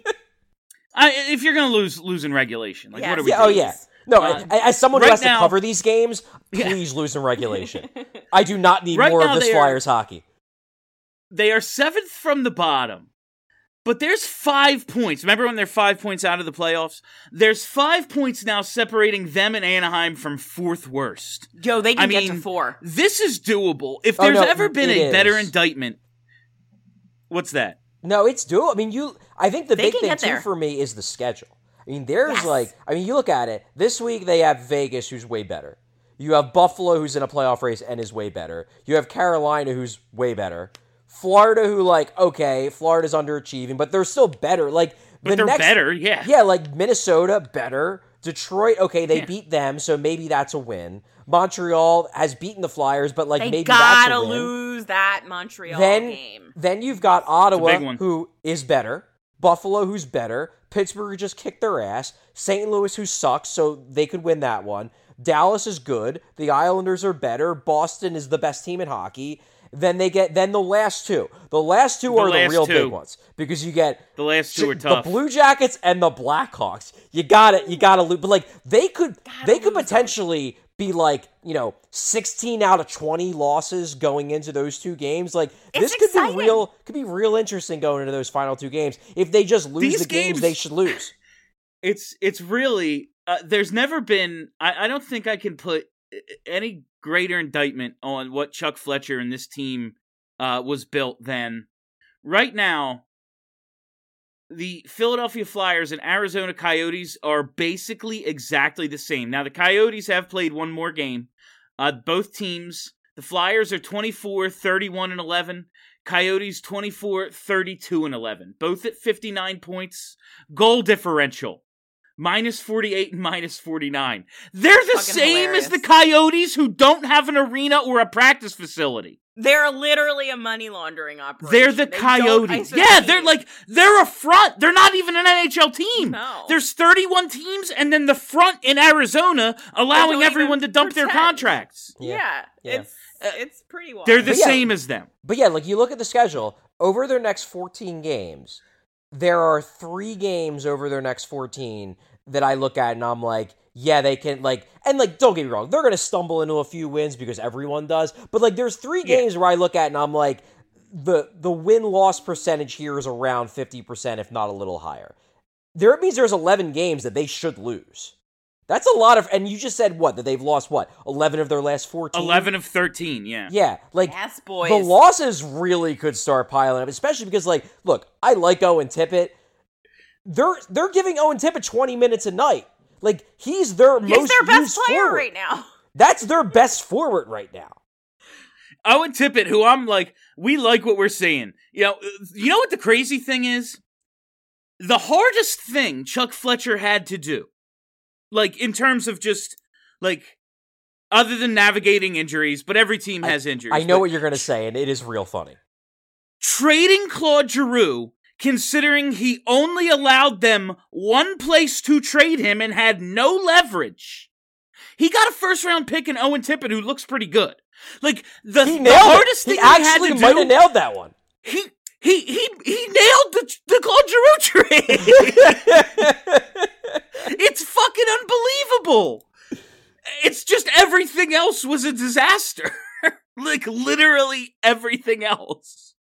If you're going to lose in regulation, like what are we doing? Oh, yeah. No, as someone who has to cover these games, please lose in regulation. I do not need more of this Flyers hockey. They are 7th from the bottom, but there's 5 points. Remember when they're 5 points out of the playoffs? There's 5 points now separating them and Anaheim from 4th worst. Yo, they can get to 4. This is doable. If there's ever been a better indictment, what's that? No, it's doable. I mean, I think the big thing too for me is the schedule. I mean, there's you look at it. This week they have Vegas, who's way better. You have Buffalo, who's in a playoff race and is way better. You have Carolina, who's way better. Florida, who Florida's underachieving, but they're still better. They're better, yeah. Yeah, like Minnesota, better. Detroit, they beat them, so maybe that's a win. Montreal has beaten the Flyers, but maybe that's a win. They gotta lose that Montreal game. Then you've got Ottawa, who is better. Buffalo, who's better. Pittsburgh, who just kicked their ass. St. Louis, who sucks, so they could win that one. Dallas is good. The Islanders are better. Boston is the best team in hockey. Then the last two. The last two are the real big ones, because you get the last two are tough. The Blue Jackets and the Blackhawks. You got to lose, but they could potentially be 16 out of 20 losses going into those 2 games. This could be real interesting going into those final 2 games. If they just lose the games they should lose. It's really there's never been, I don't think I can put any greater indictment on what Chuck Fletcher and this team was built than right now. The Philadelphia Flyers and Arizona Coyotes are basically exactly the same. Now, the Coyotes have played one more game. Both teams, the Flyers are 24-31-11. Coyotes 24-32-11. Both at 59 points. Goal differential, -48 and -49. They're the same as the Coyotes, who don't have an arena or a practice facility. They're literally a money laundering operation. They're the Coyotes. Yeah, they're a front. They're not even an NHL team. No. There's 31 teams, and then the front in Arizona allowing everyone to dump their contracts. Yeah. It's pretty wild. They're the same as them. But you look at the schedule. Over their next 14 games, there are 3 games over their next 14 that I look at and I'm like, yeah, they can, don't get me wrong, they're going to stumble into a few wins because everyone does, but, there's 3 games where I look at and I'm like, the win-loss percentage here is around 50%, if not a little higher. It means there's 11 games that they should lose. That's a lot of, and you just said that they've lost 11 of their last 14? 11 of 13, yeah. Yeah, like, yes, boys. The losses really could start piling up, especially because, like, look, I like Owen Tippett. They're giving Owen Tippett 20 minutes a night. Like, he's their best player forward right now. That's their best forward right now. Owen Tippett, who I'm like, we like what we're seeing. You know what the crazy thing is? The hardest thing Chuck Fletcher had to do, like, in terms of just, like, other than navigating injuries, but every team has injuries. I know what you're going to say, and it is real funny. Trading Claude Giroux, considering he only allowed them one place to trade him and had no leverage. He got a first-round pick in Owen Tippett, who looks pretty good. Like, the hardest thing he had to do... He actually might have nailed that one. He nailed the Claude Giroux trade! It's fucking unbelievable! It's just everything else was a disaster. Like, literally everything else.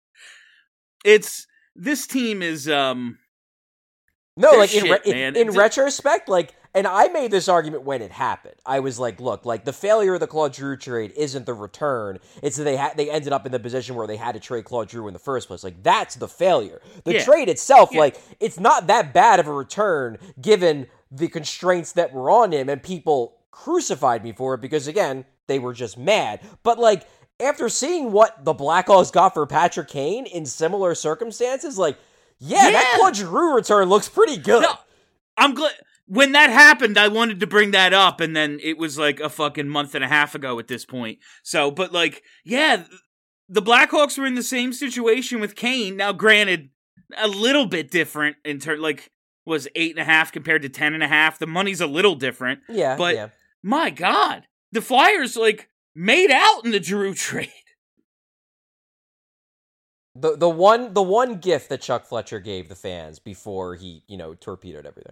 This team is, No, like, shit, in retrospect, like, and I made this argument when it happened. I was like, look, like, the failure of the Claude Giroux trade isn't the return. It's that they ended up in the position where they had to trade Claude Giroux in the first place. Like, that's the failure. The trade itself, like, it's not that bad of a return given the constraints that were on him, and people crucified me for it because, again, they were just mad. But, like, after seeing what the Blackhawks got for Patrick Kane in similar circumstances, like, that Claude Giroux return looks pretty good. No, I'm glad. When that happened, I wanted to bring that up, and then it was like a fucking month and a half ago at this point. So, but like, the Blackhawks were in the same situation with Kane. Now, granted, a little bit different in terms, like, was 8.5 compared to 10.5. The money's a little different. Yeah, but my God, the Flyers, like, made out in the Giroux trade. The one gift that Chuck Fletcher gave the fans before he, torpedoed everything.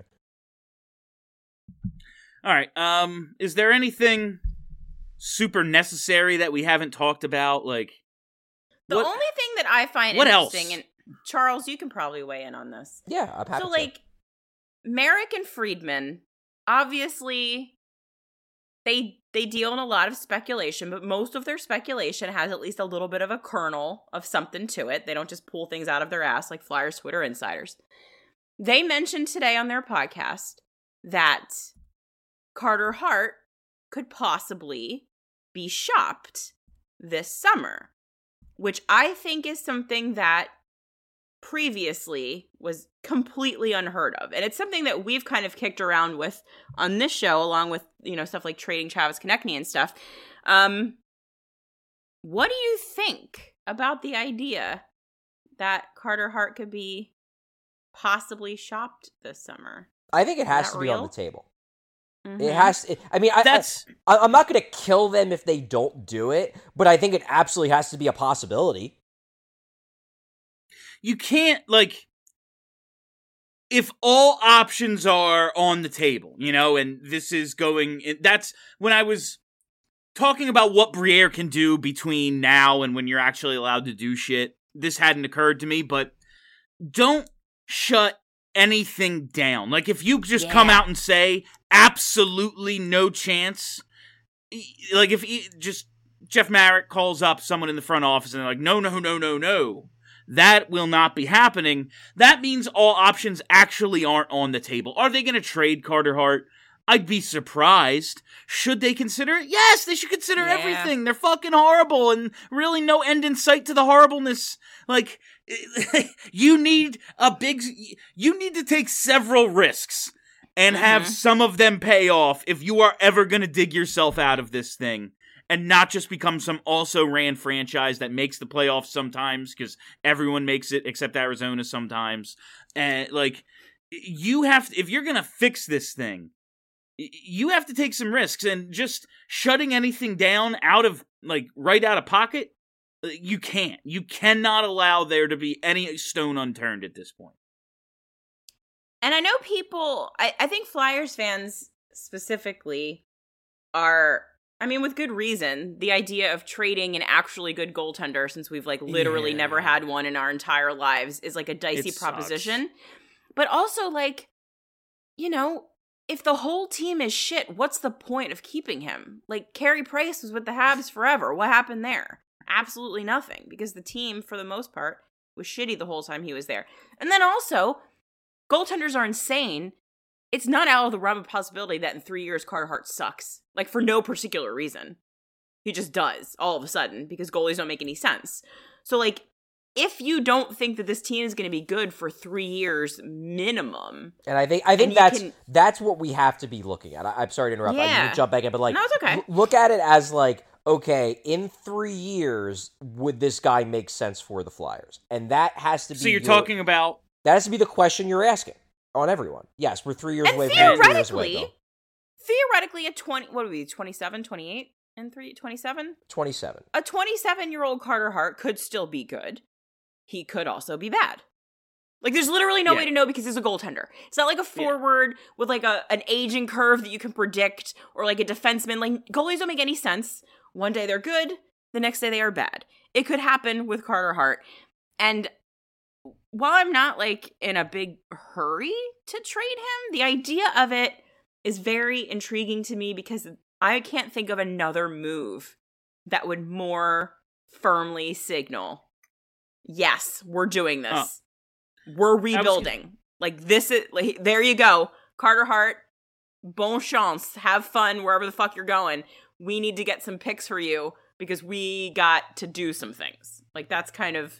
All right. Is there anything super necessary that we haven't talked about? Like, the only thing that I find interesting, and Charles, you can probably weigh in on this. Yeah, I'm happy. So, like, Merrick and Friedman, obviously, they deal in a lot of speculation, but most of their speculation has at least a little bit of a kernel of something to it. They don't just pull things out of their ass like Flyers Twitter insiders. They mentioned today on their podcast that Carter Hart could possibly be shopped this summer, which I think is something that previously was completely unheard of. And it's something that we've kind of kicked around with on this show, along with, stuff like trading Travis Konechny and stuff. What do you think about the idea that Carter Hart could be possibly shopped this summer? I think it has to be real? On the table. Mm-hmm. It has. I'm not going to kill them if they don't do it, but I think it absolutely has to be a possibility. You can't, like, if all options are on the table, and this is going, that's when I was talking about what Briere can do between now and when you're actually allowed to do shit. This hadn't occurred to me, but don't shut anything down. Like, if you just come out and say absolutely no chance, like, if just Jeff Marek calls up someone in the front office and they're like, no, that will not be happening. That means all options actually aren't on the table. Are they going to trade Carter Hart? I'd be surprised. Should they consider it? Yes, they should consider everything. They're fucking horrible, and really no end in sight to the horribleness. Like, you need to take several risks and have some of them pay off if you are ever going to dig yourself out of this thing. And not just become some also-ran franchise that makes the playoffs sometimes, because everyone makes it except Arizona sometimes. And, like, you have to, if you're going to fix this thing, you have to take some risks. And just shutting anything down right out of pocket, you can't. You cannot allow there to be any stone unturned at this point. And I know people, I think Flyers fans specifically are... with good reason, the idea of trading an actually good goaltender, since we've literally never had one in our entire lives, is a dicey proposition. But also if the whole team is shit, what's the point of keeping him? Like, Carey Price was with the Habs forever. What happened there? Absolutely nothing, because the team, for the most part, was shitty the whole time he was there. And then also, goaltenders are insane. It's not out of the realm of possibility that in 3 years Carter Hart sucks. Like, for no particular reason. He just does, all of a sudden, because goalies don't make any sense. So, like, if you don't think that this team is going to be good for 3 years minimum, and I think that's what we have to be looking at. I'm sorry to interrupt. I need to jump back in, but like, no, it's okay. Look at it as like, okay, in 3 years, would this guy make sense for the Flyers? And that has to be. So you're talking about that has to be the question you're asking on everyone. Yes, we're 3 years and away. Theoretically, at 20, what would we be, 27, 28, and 27? 27. A 27-year-old Carter Hart could still be good. He could also be bad. Like, there's literally no way to know because he's a goaltender. It's not like a forward with, like, an aging curve that you can predict, or, like, a defenseman. Like, goalies don't make any sense. One day they're good, the next day they are bad. It could happen with Carter Hart. And while I'm not, like, in a big hurry to trade him, the idea of it is very intriguing to me because I can't think of another move that would more firmly signal, yes, we're doing this. We're rebuilding. Like, this is, like, there you go. Carter Hart, bon chance. Have fun wherever the fuck you're going. We need to get some picks for you because we got to do some things. Like, that's kind of,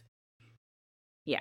yeah.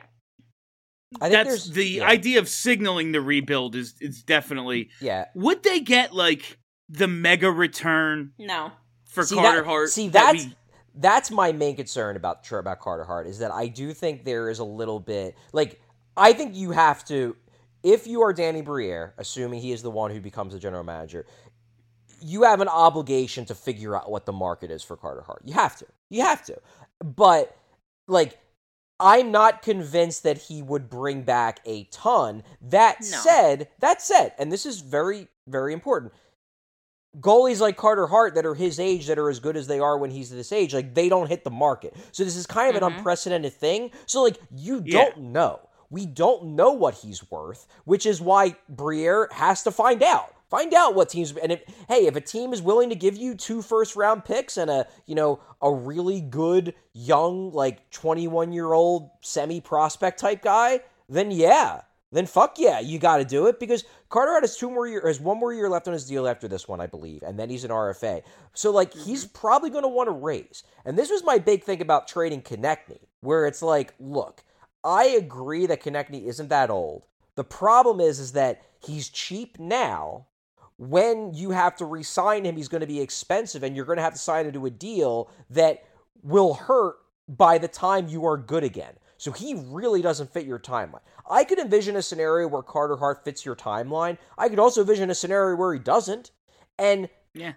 I think that's the idea of signaling the rebuild is definitely. Yeah. Would they get, like, the mega return? No. For Carter Hart? See, that's my main concern about Carter Hart, is that I do think there is a little bit, like, I think you have to, if you are Danny Briere, assuming he is the one who becomes the general manager, you have an obligation to figure out what the market is for Carter Hart. You have to. But, like, I'm not convinced that he would bring back a ton. That said, and this is very, very important, goalies like Carter Hart that are his age, that are as good as they are when he's this age, like, they don't hit the market. So this is kind of an unprecedented thing. So, like, you don't know. We don't know what he's worth, which is why Briere has to find out. Find out what teams, and if a team is willing to give you 2 first-round picks and a really good young, like, 21-year-old semi-prospect type guy, then fuck yeah, you got to do it, because Carter Hart has 1 more year left on his deal after this one, I believe, and then he's an RFA. So, like, he's probably going to want to raise. And this was my big thing about trading Konechny, where it's like, look, I agree that Konechny isn't that old. The problem is that he's cheap now. When you have to re-sign him, he's going to be expensive, and you're going to have to sign him to a deal that will hurt by the time you are good again. So he really doesn't fit your timeline. I could envision a scenario where Carter Hart fits your timeline. I could also envision a scenario where he doesn't. And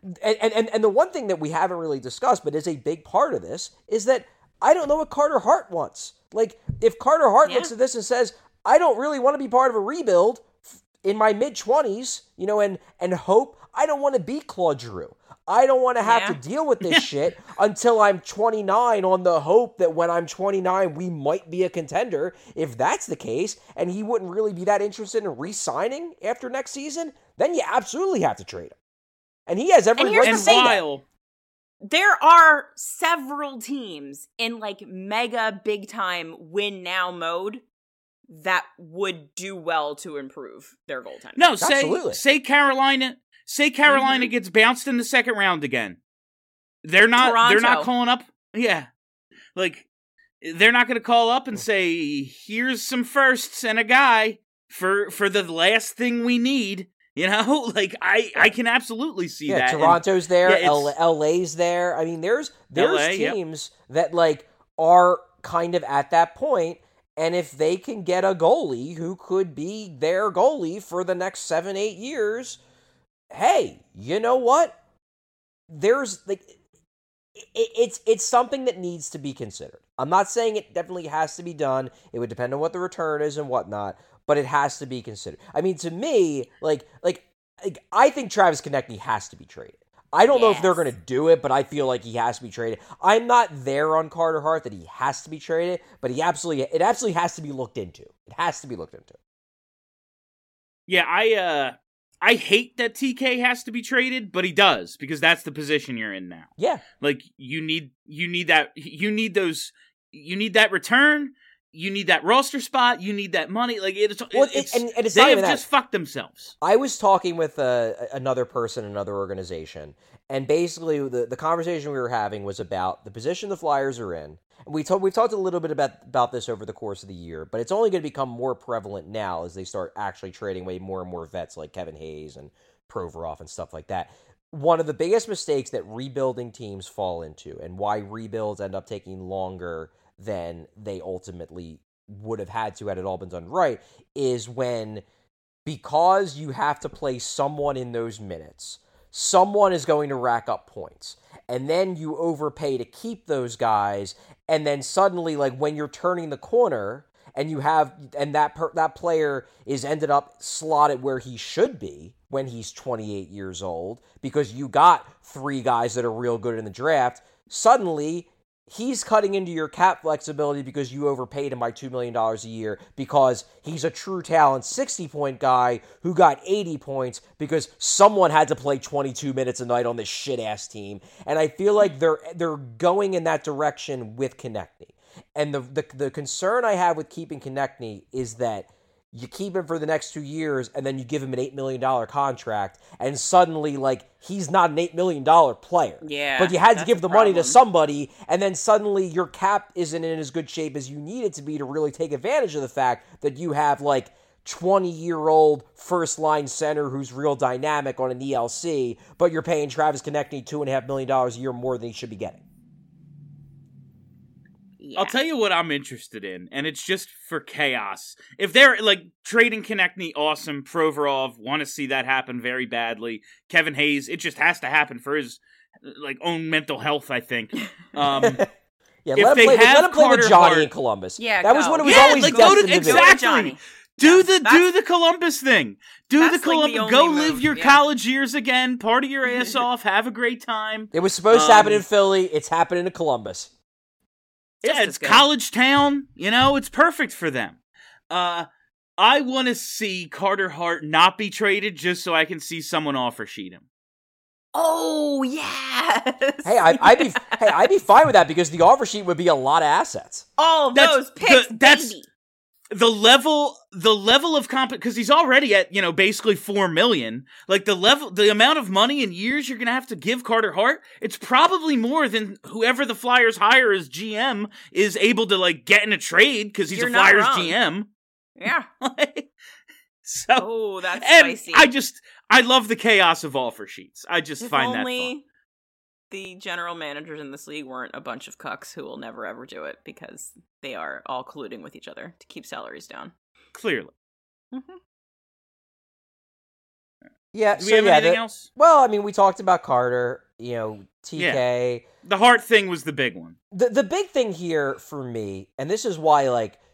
the one thing that we haven't really discussed, but is a big part of this, is that I don't know what Carter Hart wants. Like, if Carter Hart looks at this and says, I don't really want to be part of a rebuild in my mid-20s, and hope, I don't want to be Claude Giroux. I don't want to have to deal with this shit until I'm 29 on the hope that when I'm 29, we might be a contender. If that's the case, and he wouldn't really be that interested in re-signing after next season, then you absolutely have to trade him. And he has every right to say that. There are several teams in, like, mega big-time win-now mode that would do well to improve their goaltending. No, say Carolina gets bounced in the second round again. They're not calling up. Yeah. Like, they're not going to call up and say, here's some firsts and a guy for the last thing we need. Like, I can absolutely see that. Toronto's there, LA's there. I mean, there's LA, teams that, like, are kind of at that point, and if they can get a goalie who could be their goalie for the next 7-8 years, hey, you know what? There's, like, it's something that needs to be considered. I'm not saying it definitely has to be done. It would depend on what the return is and whatnot, but it has to be considered. I mean, to me, like I think Travis Konechny has to be traded. I don't know if they're going to do it, but I feel like he has to be traded. I'm not there on Carter Hart that he has to be traded, but it absolutely has to be looked into. It has to be looked into. Yeah, I hate that TK has to be traded, but he does, because that's the position you're in now. Yeah. Like, you need that return, you need that roster spot, you need that money. Like, it's they have just fucked themselves. I was talking with another person in another organization, and basically the conversation we were having was about the position the Flyers are in. We've talked a little bit about this over the course of the year, but it's only going to become more prevalent now as they start actually trading away more and more vets like Kevin Hayes and Provorov and stuff like that. One of the biggest mistakes that rebuilding teams fall into, and why rebuilds end up taking longer than they ultimately would have had to had it all been done right, is when, because you have to play someone in those minutes, someone is going to rack up points. And then you overpay to keep those guys, and then suddenly, like, when you're turning the corner and that player is ended up slotted where he should be when he's 28 years old, because you got 3 guys that are real good in the draft, suddenly he's cutting into your cap flexibility because you overpaid him by $2 million a year because he's a true talent 60-point guy who got 80 points because someone had to play 22 minutes a night on this shit-ass team. And I feel like they're going in that direction with Konechny. And the concern I have with keeping Konechny is that you keep him for the next 2 years, and then you give him an $8 million contract, and suddenly, like, he's not an $8 million player. Yeah, but you had to give the money to somebody, and then suddenly your cap isn't in as good shape as you need it to be to really take advantage of the fact that you have, like, 20-year-old first-line center who's real dynamic on an ELC, but you're paying Travis Konechny $2.5 million a year more than he should be getting. Yeah. I'll tell you what I'm interested in, and it's just for chaos. If they're, like, trading Konechny, awesome. Provorov, want to see that happen very badly. Kevin Hayes, it just has to happen for his, like, own mental health, I think. Yeah, let him play with Johnny in Columbus. Yeah, that was what it was always like, destined to exactly. Do the Columbus thing. Like go live your college years again. Party your ass off. Have a great time. It was supposed to happen in Philly. It's happening in Columbus. Yeah, it's college town. You know, it's perfect for them. I want to see Carter Hart not be traded just so I can see someone offer sheet him. Oh, yes. Hey, I'd be fine with that because the offer sheet would be a lot of assets. Oh, those picks, baby. The level of because he's already at, you know, basically $4 million. Like the amount of money and years you're gonna have to give Carter Hart, it's probably more than whoever the Flyers hire as GM is able to, like, get in a trade because he's a Flyers GM. Yeah. So that's spicy. I love the chaos of offer sheets. I just find that fun. The general managers in this league weren't a bunch of cucks who will never ever do it because they are all colluding with each other to keep salaries down. Clearly. Mm-hmm. Yeah. Do we have anything else? Well, I mean, we talked about Carter, you know, TK. Yeah. The Hart thing was the big one. The big thing here for me, and this is why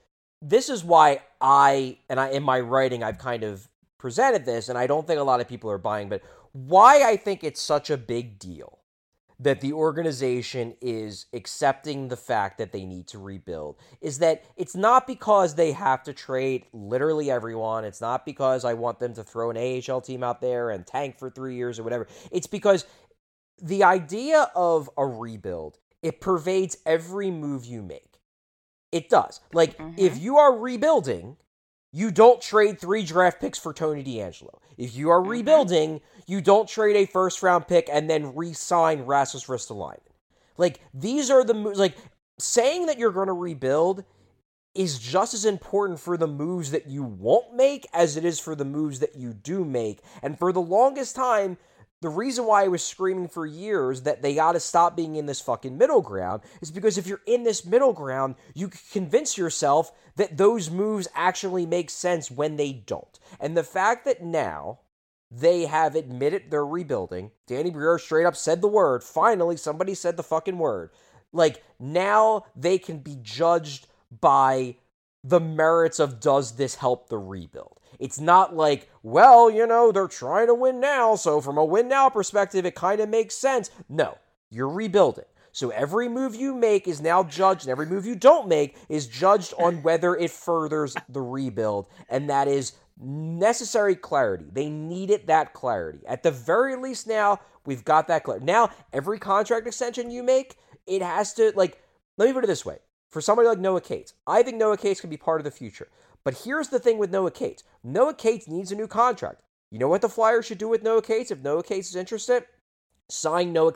in my writing I've kind of presented this, and I don't think a lot of people are buying, but why I think it's such a big deal that the organization is accepting the fact that they need to rebuild is that it's not because they have to trade literally everyone. It's not because I want them to throw an AHL team out there and tank for 3 years or whatever. It's because the idea of a rebuild, it pervades every move you make. It does. Like, if you are rebuilding, you don't trade 3 draft picks for Tony DeAngelo. If you are rebuilding, you don't trade a first-round pick and then re-sign Rasmus Ristolainen. Like, these are the moves. Like, saying that you're going to rebuild is just as important for the moves that you won't make as it is for the moves that you do make. And for the longest time, the reason why I was screaming for years that they got to stop being in this fucking middle ground is because if you're in this middle ground, you can convince yourself that those moves actually make sense when they don't. And the fact that now they have admitted they're rebuilding, Danny Briere straight up said the word, finally somebody said the fucking word. Like, now they can be judged by the merits of, does this help the rebuild? It's not like, well, you know, they're trying to win now, so from a win now perspective, it kind of makes sense. No, you're rebuilding. So every move you make is now judged, and every move you don't make is judged on whether it furthers the rebuild, and that is necessary clarity. They needed that clarity. At the very least now, we've got that clarity. Now, every contract extension you make, it has to, like, let me put it this way. For somebody like Noah Cates, I think Noah Cates can be part of the future. But here's the thing with Noah Cates. Noah Cates needs a new contract. You know what the Flyers should do with Noah Cates if Noah Cates is interested? Sign Noah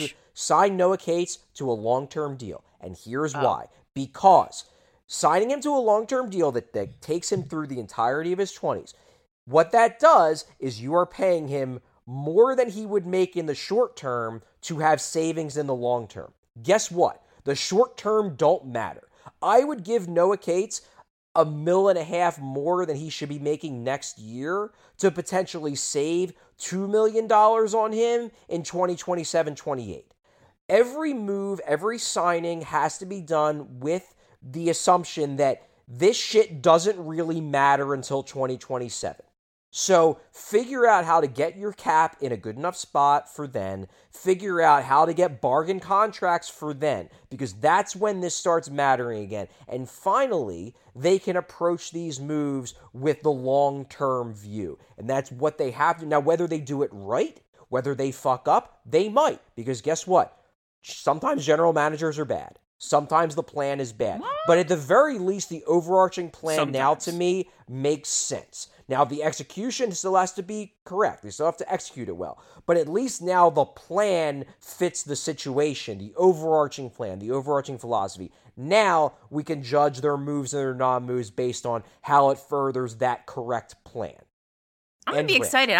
Cates to a long-term deal. And here's why. Because signing him to a long-term deal that takes him through the entirety of his 20s, what that does is you are paying him more than he would make in the short term to have savings in the long term. Guess what? The short term don't matter. I would give Noah Cates $1.5 million more than he should be making next year to potentially save $2 million on him in 2027-28. Every move, every signing has to be done with the assumption that this shit doesn't really matter until 2027. So figure out how to get your cap in a good enough spot for then. Figure out how to get bargain contracts for then, because that's when this starts mattering again. And finally, they can approach these moves with the long-term view. And that's what they have to. Now, whether they do it right, whether they fuck up, they might. Because guess what? Sometimes general managers are bad. Sometimes the plan is bad. But at the very least, the overarching plan now to me makes sense. Now, the execution still has to be correct. They still have to execute it well. But at least now the plan fits the situation, the overarching plan, the overarching philosophy. Now we can judge their moves and their non-moves based on how it furthers that correct plan. I'm gonna be excited.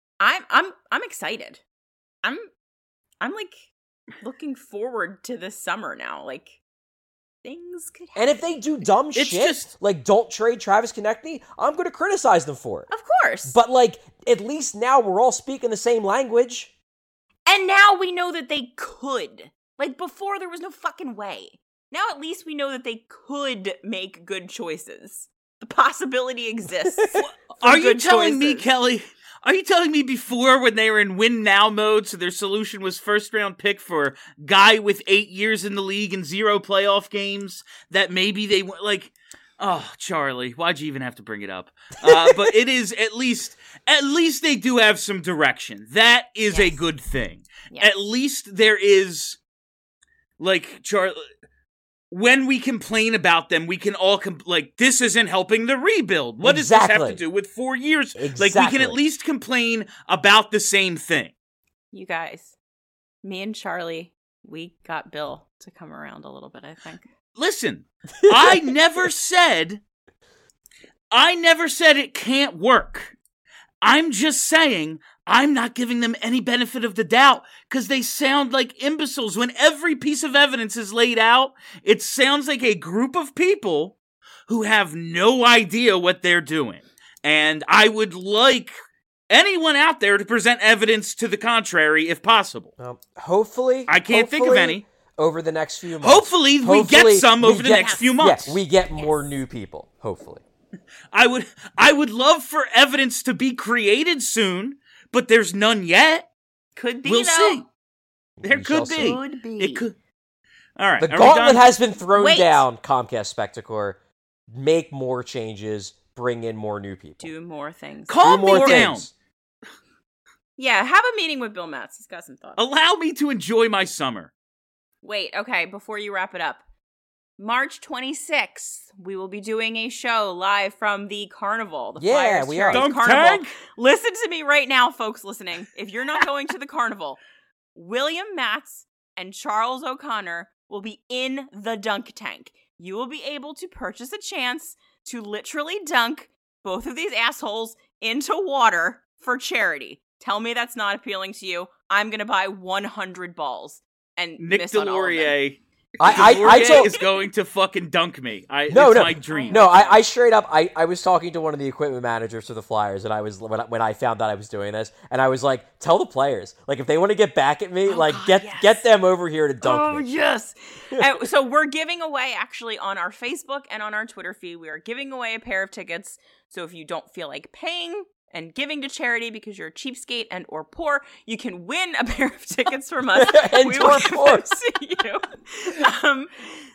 I'm excited. I'm like looking forward to this summer now. Like, things could happen. And if they do dumb shit, like don't trade Travis Konechny, I'm going to criticize them for it. Of course. But, like, at least now we're all speaking the same language. And now we know that they could. Like, before there was no fucking way. Now at least we know that they could make good choices. The possibility exists. Are you telling me, Kelly? Are you telling me before, when they were in win now mode, so their solution was first round pick for guy with 8 years in the league and 0 playoff games, that maybe they went like, oh, Charlie, why'd you even have to bring it up? But it is at least they do have some direction. That is a good thing. Yes. At least there is, like, Charlie, when we complain about them, we can all this isn't helping the rebuild. What does this have to do with 4 years? Like, we can at least complain about the same thing. You guys, me and Charlie, we got Bill to come around a little bit, I think. Listen, I never said it can't work. I'm just saying I'm not giving them any benefit of the doubt because they sound like imbeciles. When every piece of evidence is laid out, it sounds like a group of people who have no idea what they're doing. And I would like anyone out there to present evidence to the contrary if possible. Hopefully. I can't think of any. Over the next few months. Hopefully we get some over the next few months. Yeah, we get more new people, hopefully. I would love for evidence to be created soon, but there's none yet. Could be. We'll see. There could be. Could be. It could. All right. The gauntlet has been thrown down, Comcast Spectacor. Make more changes. Bring in more new people. Do more things. Calm me down. Yeah, have a meeting with Bill Matz. He's got some thoughts. Allow me to enjoy my summer. Wait, okay, before you wrap it up. March 26th, we will be doing a show live from the Carnival. The Flyers we are. Carnival. Listen to me right now, folks listening. If you're not going to the Carnival, William Matz and Charles O'Connor will be in the dunk tank. You will be able to purchase a chance to literally dunk both of these assholes into water for charity. Tell me that's not appealing to you. I'm going to buy 100 balls. And Nick Delorier. I is going to fucking dunk me. It's my dream. No, I straight up, I was talking to one of the equipment managers for the Flyers, and I was when I found out I was doing this, and I was like, tell the players, like, if they want to get back at me, get them over here to dunk me. Oh, yes. So we're giving away, actually, on our Facebook and on our Twitter feed, we are giving away a pair of tickets. So if you don't feel like paying and giving to charity because you're a cheapskate and or poor, you can win a pair of tickets from us. And we will poor. See you.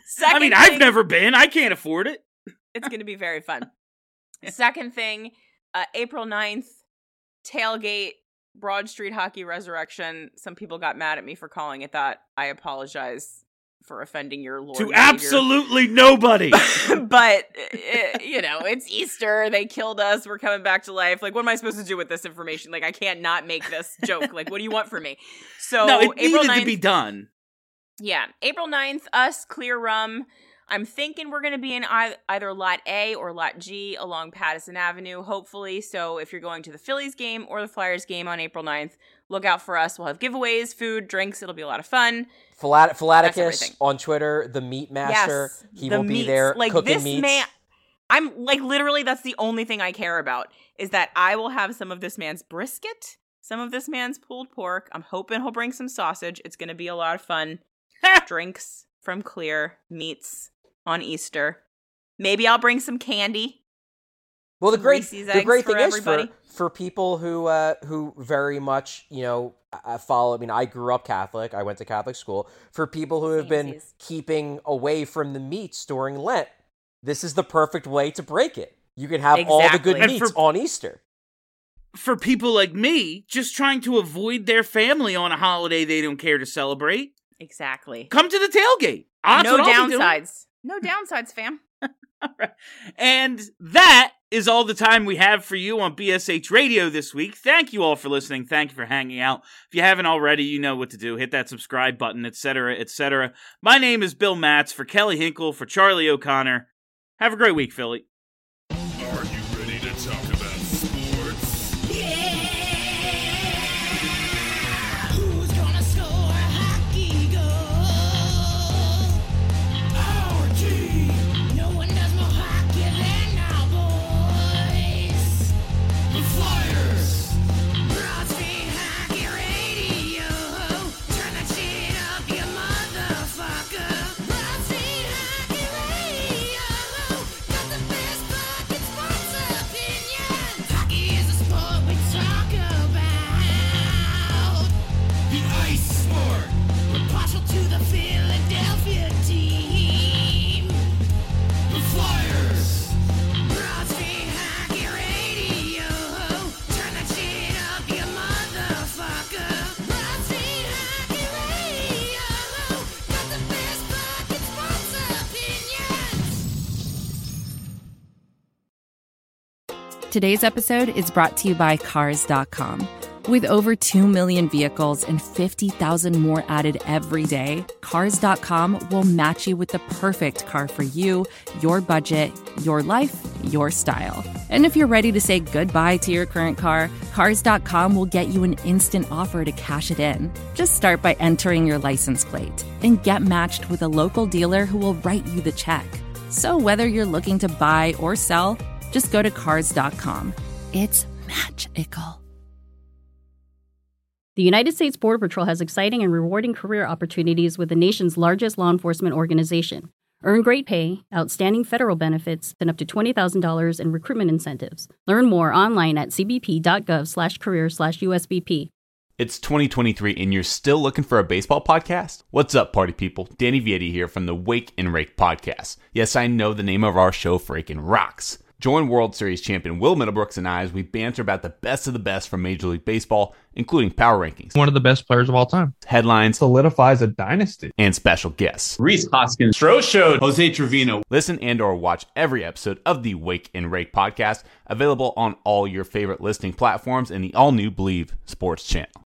I've never been. I can't afford it. It's going to be very fun. Second thing, April 9th, tailgate, Broad Street Hockey Resurrection. Some people got mad at me for calling it that. I apologize for offending your Lord. To absolutely nobody. But, it's Easter. They killed us. We're coming back to life. Like, what am I supposed to do with this information? Like, I can't not make this joke. Like, what do you want from me? So, no, it April needed 9th, to be done. Yeah. April 9th, us, Clear Rum. I'm thinking we're going to be in either Lot A or Lot G along Pattison Avenue, hopefully. So if you're going to the Phillies game or the Flyers game on April 9th, look out for us. We'll have giveaways, food, drinks. It'll be a lot of fun. Philaticus on Twitter, the Meat Master. Yes, he will be there cooking meats. Man, I'm like, literally, that's the only thing I care about, is that I will have some of this man's brisket, some of this man's pulled pork. I'm hoping he'll bring some sausage. It's going to be a lot of fun. Drinks from Clear, meats on Easter. Maybe I'll bring some candy. Well, the great thing is for people who very much, follow. I mean, I grew up Catholic. I went to Catholic school. For people who have been keeping away from the meats during Lent, this is the perfect way to break it. You can have all the good meats on Easter. For people like me, just trying to avoid their family on a holiday they don't care to celebrate. Exactly. Come to the tailgate. No downsides. No downsides, fam. All right. And that is all the time we have for you on BSH Radio this week. Thank you all for listening. Thank you for hanging out. If you haven't already, you know what to do. Hit that subscribe button, etc., etc. My name is Bill Matz. For Kelly Hinkle, for Charlie O'Connor. Have a great week, Philly. Are you ready to talk about sports? Who's gonna score a hockey goal? Our team. No one does more hockey than our boys. The Flyers. Broad Street Hockey Radio. Turn that shit up, you motherfucker. Broad Street Hockey Radio. Got the best fucking sports opinion. Hockey is a sport we talk about. The ice sport. We're partial to the Philadelphia team. The Flyers. Broad Street Hockey Radio. Turn that shit up, you motherfucker. Broad Street Hockey Radio. Got the best fucking sports opinions. Today's episode is brought to you by Cars.com. With over 2 million vehicles and 50,000 more added every day, Cars.com will match you with the perfect car for you, your budget, your life, your style. And if you're ready to say goodbye to your current car, Cars.com will get you an instant offer to cash it in. Just start by entering your license plate and get matched with a local dealer who will write you the check. So whether you're looking to buy or sell, just go to Cars.com. It's magical. The United States Border Patrol has exciting and rewarding career opportunities with the nation's largest law enforcement organization. Earn great pay, outstanding federal benefits, and up to $20,000 in recruitment incentives. Learn more online at cbp.gov/career/USBP. It's 2023 and you're still looking for a baseball podcast? What's up, party people? Danny Vietti here from the Wake and Rake podcast. Yes, I know the name of our show freaking rocks. Join World Series champion Will Middlebrooks and I as we banter about the best of the best from Major League Baseball, including power rankings, one of the best players of all time, headlines, solidifies a dynasty, and special guests. Rhys Hoskins, Stro Show, Jose Trevino. Listen and or watch every episode of the Wake and Rake podcast, available on all your favorite listening platforms and the all-new Believe Sports channel.